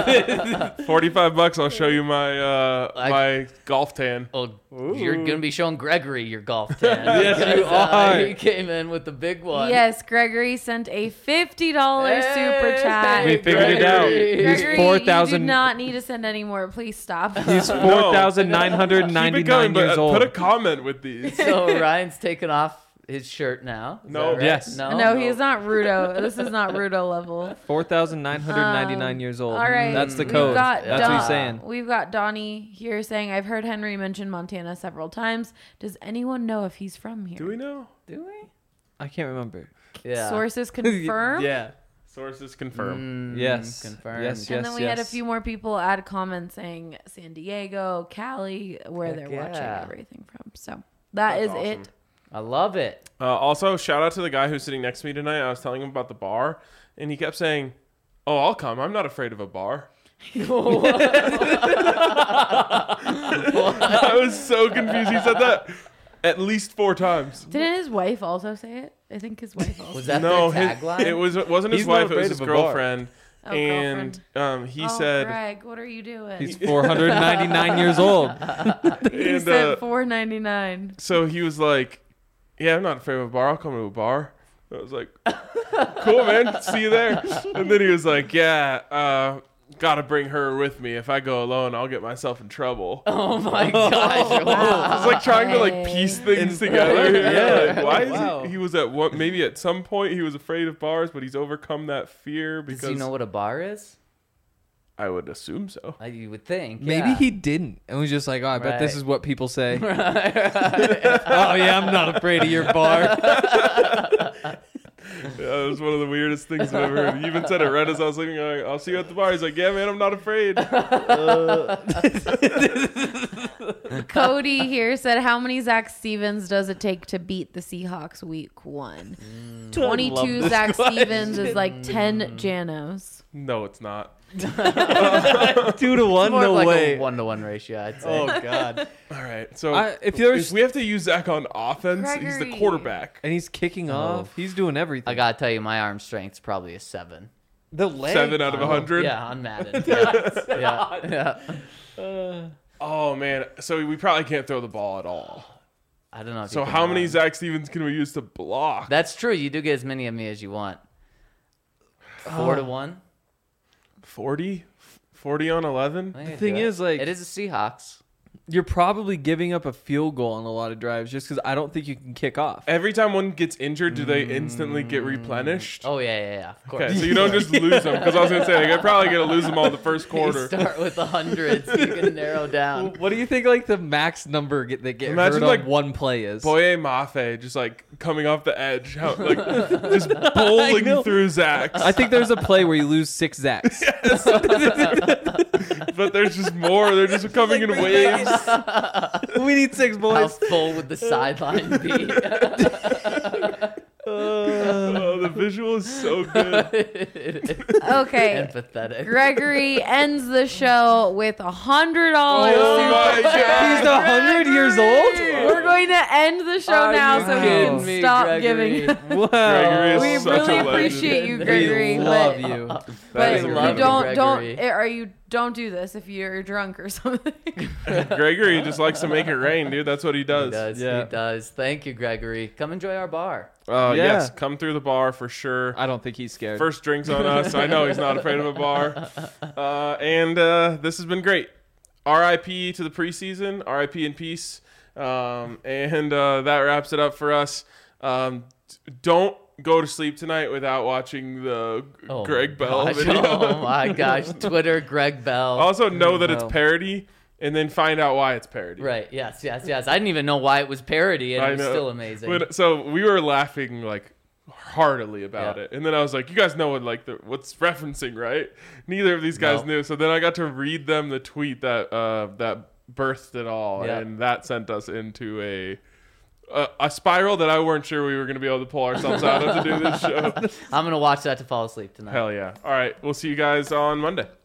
Speaker 1: $45. I'll show you my my golf tan.
Speaker 2: Oh, you're gonna be showing Gregory your golf tan.
Speaker 3: Yes,
Speaker 2: Because,
Speaker 3: you are.
Speaker 2: He came in with the big one.
Speaker 5: Yes, Gregory sent a $50 super chat.
Speaker 3: We figured it out.
Speaker 2: Gregory.
Speaker 3: He's
Speaker 5: Gregory,
Speaker 3: 4,000.
Speaker 5: you do not need to send any more. Please stop.
Speaker 3: He's
Speaker 1: Keep it
Speaker 3: 4,999
Speaker 1: going, but
Speaker 3: years old.
Speaker 1: put a comment with these.
Speaker 2: So Ryan's taking off his shirt now. Is
Speaker 1: No.
Speaker 2: that right?
Speaker 3: Yes.
Speaker 5: No, he's not Rudo. This is not Rudo level.
Speaker 3: 4,999 years old.
Speaker 5: All right.
Speaker 3: That's the
Speaker 5: We've
Speaker 3: code.
Speaker 5: got
Speaker 3: That's what he's saying.
Speaker 5: We've got Donnie here saying, I've heard Henry mention Montana several times. Does anyone know if he's from here?
Speaker 1: Do we know?
Speaker 2: Do we?
Speaker 3: I can't remember.
Speaker 2: Yeah.
Speaker 5: Sources confirm?
Speaker 3: Yeah.
Speaker 1: Sources confirm.
Speaker 3: Yes.
Speaker 2: Confirmed.
Speaker 3: Yes,
Speaker 5: And then we had a
Speaker 3: yes.
Speaker 5: few more people add comments saying San Diego, Cali, where
Speaker 2: Heck
Speaker 5: they're
Speaker 2: yeah.
Speaker 5: watching everything from. So that is
Speaker 1: That's awesome.
Speaker 5: it.
Speaker 2: I love it.
Speaker 1: Also, shout out to the guy who's sitting next to me tonight. I was telling him about the bar, and he kept saying, "Oh, I'll come. I'm not afraid of a bar." I was so confused. He said that at least 4 times.
Speaker 5: Didn't his wife also say it? I think his wife also.
Speaker 2: Was that
Speaker 1: No,
Speaker 2: their
Speaker 1: his,
Speaker 2: tagline?
Speaker 1: it wasn't his
Speaker 3: He's not
Speaker 1: wife. It was
Speaker 3: afraid
Speaker 1: his
Speaker 3: of a bar.
Speaker 1: girlfriend.
Speaker 5: Oh,
Speaker 1: And he
Speaker 5: oh,
Speaker 1: said,
Speaker 5: Greg, what are you doing?
Speaker 3: He's 499 years old.
Speaker 5: he
Speaker 1: and,
Speaker 5: said $4.99.
Speaker 1: so he was like, "Yeah, I'm not afraid of a bar. I'll come to a bar." I was like, "Cool, man. See you there." And then he was like, "Yeah, gotta bring her with me. If I go alone, I'll get myself in trouble."
Speaker 2: Oh my gosh. Wow.
Speaker 1: It's like trying to like piece things together.
Speaker 3: Yeah.
Speaker 1: Like, why is
Speaker 3: Wow.
Speaker 1: he was at one, maybe at some point he was afraid of bars, but he's overcome that fear
Speaker 2: Does
Speaker 1: because
Speaker 2: he know what a bar is?
Speaker 1: I would assume so.
Speaker 2: You would think.
Speaker 3: Maybe
Speaker 2: yeah.
Speaker 3: he didn't. And was just like, oh, I bet this
Speaker 2: Right.
Speaker 3: is what people say. Oh, yeah, I'm not afraid of your bar.
Speaker 1: Yeah, it was one of the weirdest things I've ever heard. He even said it right as I was leaving. Like, I'll see you at the bar. He's like, "Yeah, man, I'm not afraid."
Speaker 5: Cody here said, how many Zach Stevens does it take to beat the Seahawks week 1? 22 Zach Stevens is like 10 Janos.
Speaker 1: No, it's not.
Speaker 3: 2 to 1?
Speaker 2: More
Speaker 3: No
Speaker 2: like
Speaker 3: way.
Speaker 2: a 1-to-1 ratio, I'd say.
Speaker 3: Oh, God.
Speaker 1: All right. So
Speaker 3: If there's
Speaker 1: if we have to use Zach on offense, he's the
Speaker 5: Gregory.
Speaker 1: quarterback.
Speaker 3: and he's kicking off, he's doing everything.
Speaker 2: I gotta tell you, my arm strength's probably a 7.
Speaker 3: the leg.
Speaker 1: 7 out of 100.
Speaker 2: Yeah, on Madden. Yeah.
Speaker 1: Oh man. So we probably can't throw the ball at all.
Speaker 2: I don't know. If
Speaker 1: So
Speaker 2: you can
Speaker 1: how many
Speaker 2: run.
Speaker 1: Zach Stevens can we use to block?
Speaker 2: That's true. You do get as many of me as you want. 4 to 1.
Speaker 1: 40? 40 on 11?
Speaker 2: I think I
Speaker 3: The
Speaker 2: can
Speaker 3: thing
Speaker 2: do it.
Speaker 3: is, like-
Speaker 2: it is a Seahawks.
Speaker 3: you're probably giving up a field goal on a lot of drives just because I don't think you can kick off.
Speaker 1: Every time one gets injured, do they instantly get replenished?
Speaker 2: Oh yeah, of course.
Speaker 1: Okay, so you don't just lose them, because I was going to say, you're probably going to lose them all in the first
Speaker 2: You
Speaker 1: quarter.
Speaker 2: start with the hundreds. You can narrow down.
Speaker 3: What do you think like the max number that get
Speaker 1: Imagine,
Speaker 3: hurt
Speaker 1: like,
Speaker 3: on one play is?
Speaker 1: Boye Mafe just like coming off the edge, just bowling through Zacks.
Speaker 3: I think there's a play where you lose 6 Zacks.
Speaker 1: But there's just more. They're just coming in waves.
Speaker 3: We need 6
Speaker 2: How
Speaker 3: boys.
Speaker 2: full would the sideline be?
Speaker 1: Oh, the visual is so good.
Speaker 5: Okay.
Speaker 2: Empathetic.
Speaker 5: Gregory ends the show with $100
Speaker 1: Oh my
Speaker 5: super
Speaker 1: God.
Speaker 5: chat.
Speaker 3: He's 100 years old?
Speaker 5: We're going to end the show
Speaker 2: Are
Speaker 5: now
Speaker 2: you
Speaker 5: so he
Speaker 2: kidding
Speaker 5: can
Speaker 2: me,
Speaker 5: stop
Speaker 2: Gregory?
Speaker 5: giving.
Speaker 3: Wow.
Speaker 1: Gregory is
Speaker 5: We
Speaker 1: such a
Speaker 5: really
Speaker 1: legend.
Speaker 5: appreciate you,
Speaker 2: We
Speaker 5: Gregory.
Speaker 3: We love
Speaker 5: but
Speaker 3: you.
Speaker 1: That
Speaker 5: but
Speaker 1: is
Speaker 5: you
Speaker 1: incredible.
Speaker 5: don't do this if you're drunk or something.
Speaker 1: Gregory just likes to make it rain, dude. That's what he
Speaker 2: He
Speaker 1: does.
Speaker 2: does.
Speaker 3: Yeah.
Speaker 2: He does. Thank you, Gregory. Come enjoy our bar.
Speaker 3: Yeah.
Speaker 1: Yes, come through the bar for sure.
Speaker 3: I don't think he's scared.
Speaker 1: First drinks on us. I know he's not afraid of a bar. And this has been great. RIP to the preseason. RIP in peace. And that wraps it up for us. Don't go to sleep tonight without watching the
Speaker 2: Oh
Speaker 1: Greg
Speaker 2: my
Speaker 1: Bell
Speaker 2: gosh.
Speaker 1: video.
Speaker 2: Oh my gosh. Twitter, Greg Bell.
Speaker 1: Also know that
Speaker 3: Bell.
Speaker 1: it's parody, and then find out why it's parody.
Speaker 2: Right. Yes. I didn't even know why it was parody, and
Speaker 1: I
Speaker 2: it was
Speaker 1: know.
Speaker 2: still amazing.
Speaker 1: So we were laughing like heartily about
Speaker 2: Yeah.
Speaker 1: it, and then I was like, "You guys know what what's referencing, right?" Neither of these guys
Speaker 2: No.
Speaker 1: knew. So then I got to read them the tweet that that birthed it all,
Speaker 2: Yeah.
Speaker 1: and that sent us into a spiral that I weren't sure we were going to be able to pull ourselves out of to do this show.
Speaker 2: I'm going to watch that to fall asleep tonight.
Speaker 1: Hell yeah! All right, we'll see you guys on Monday.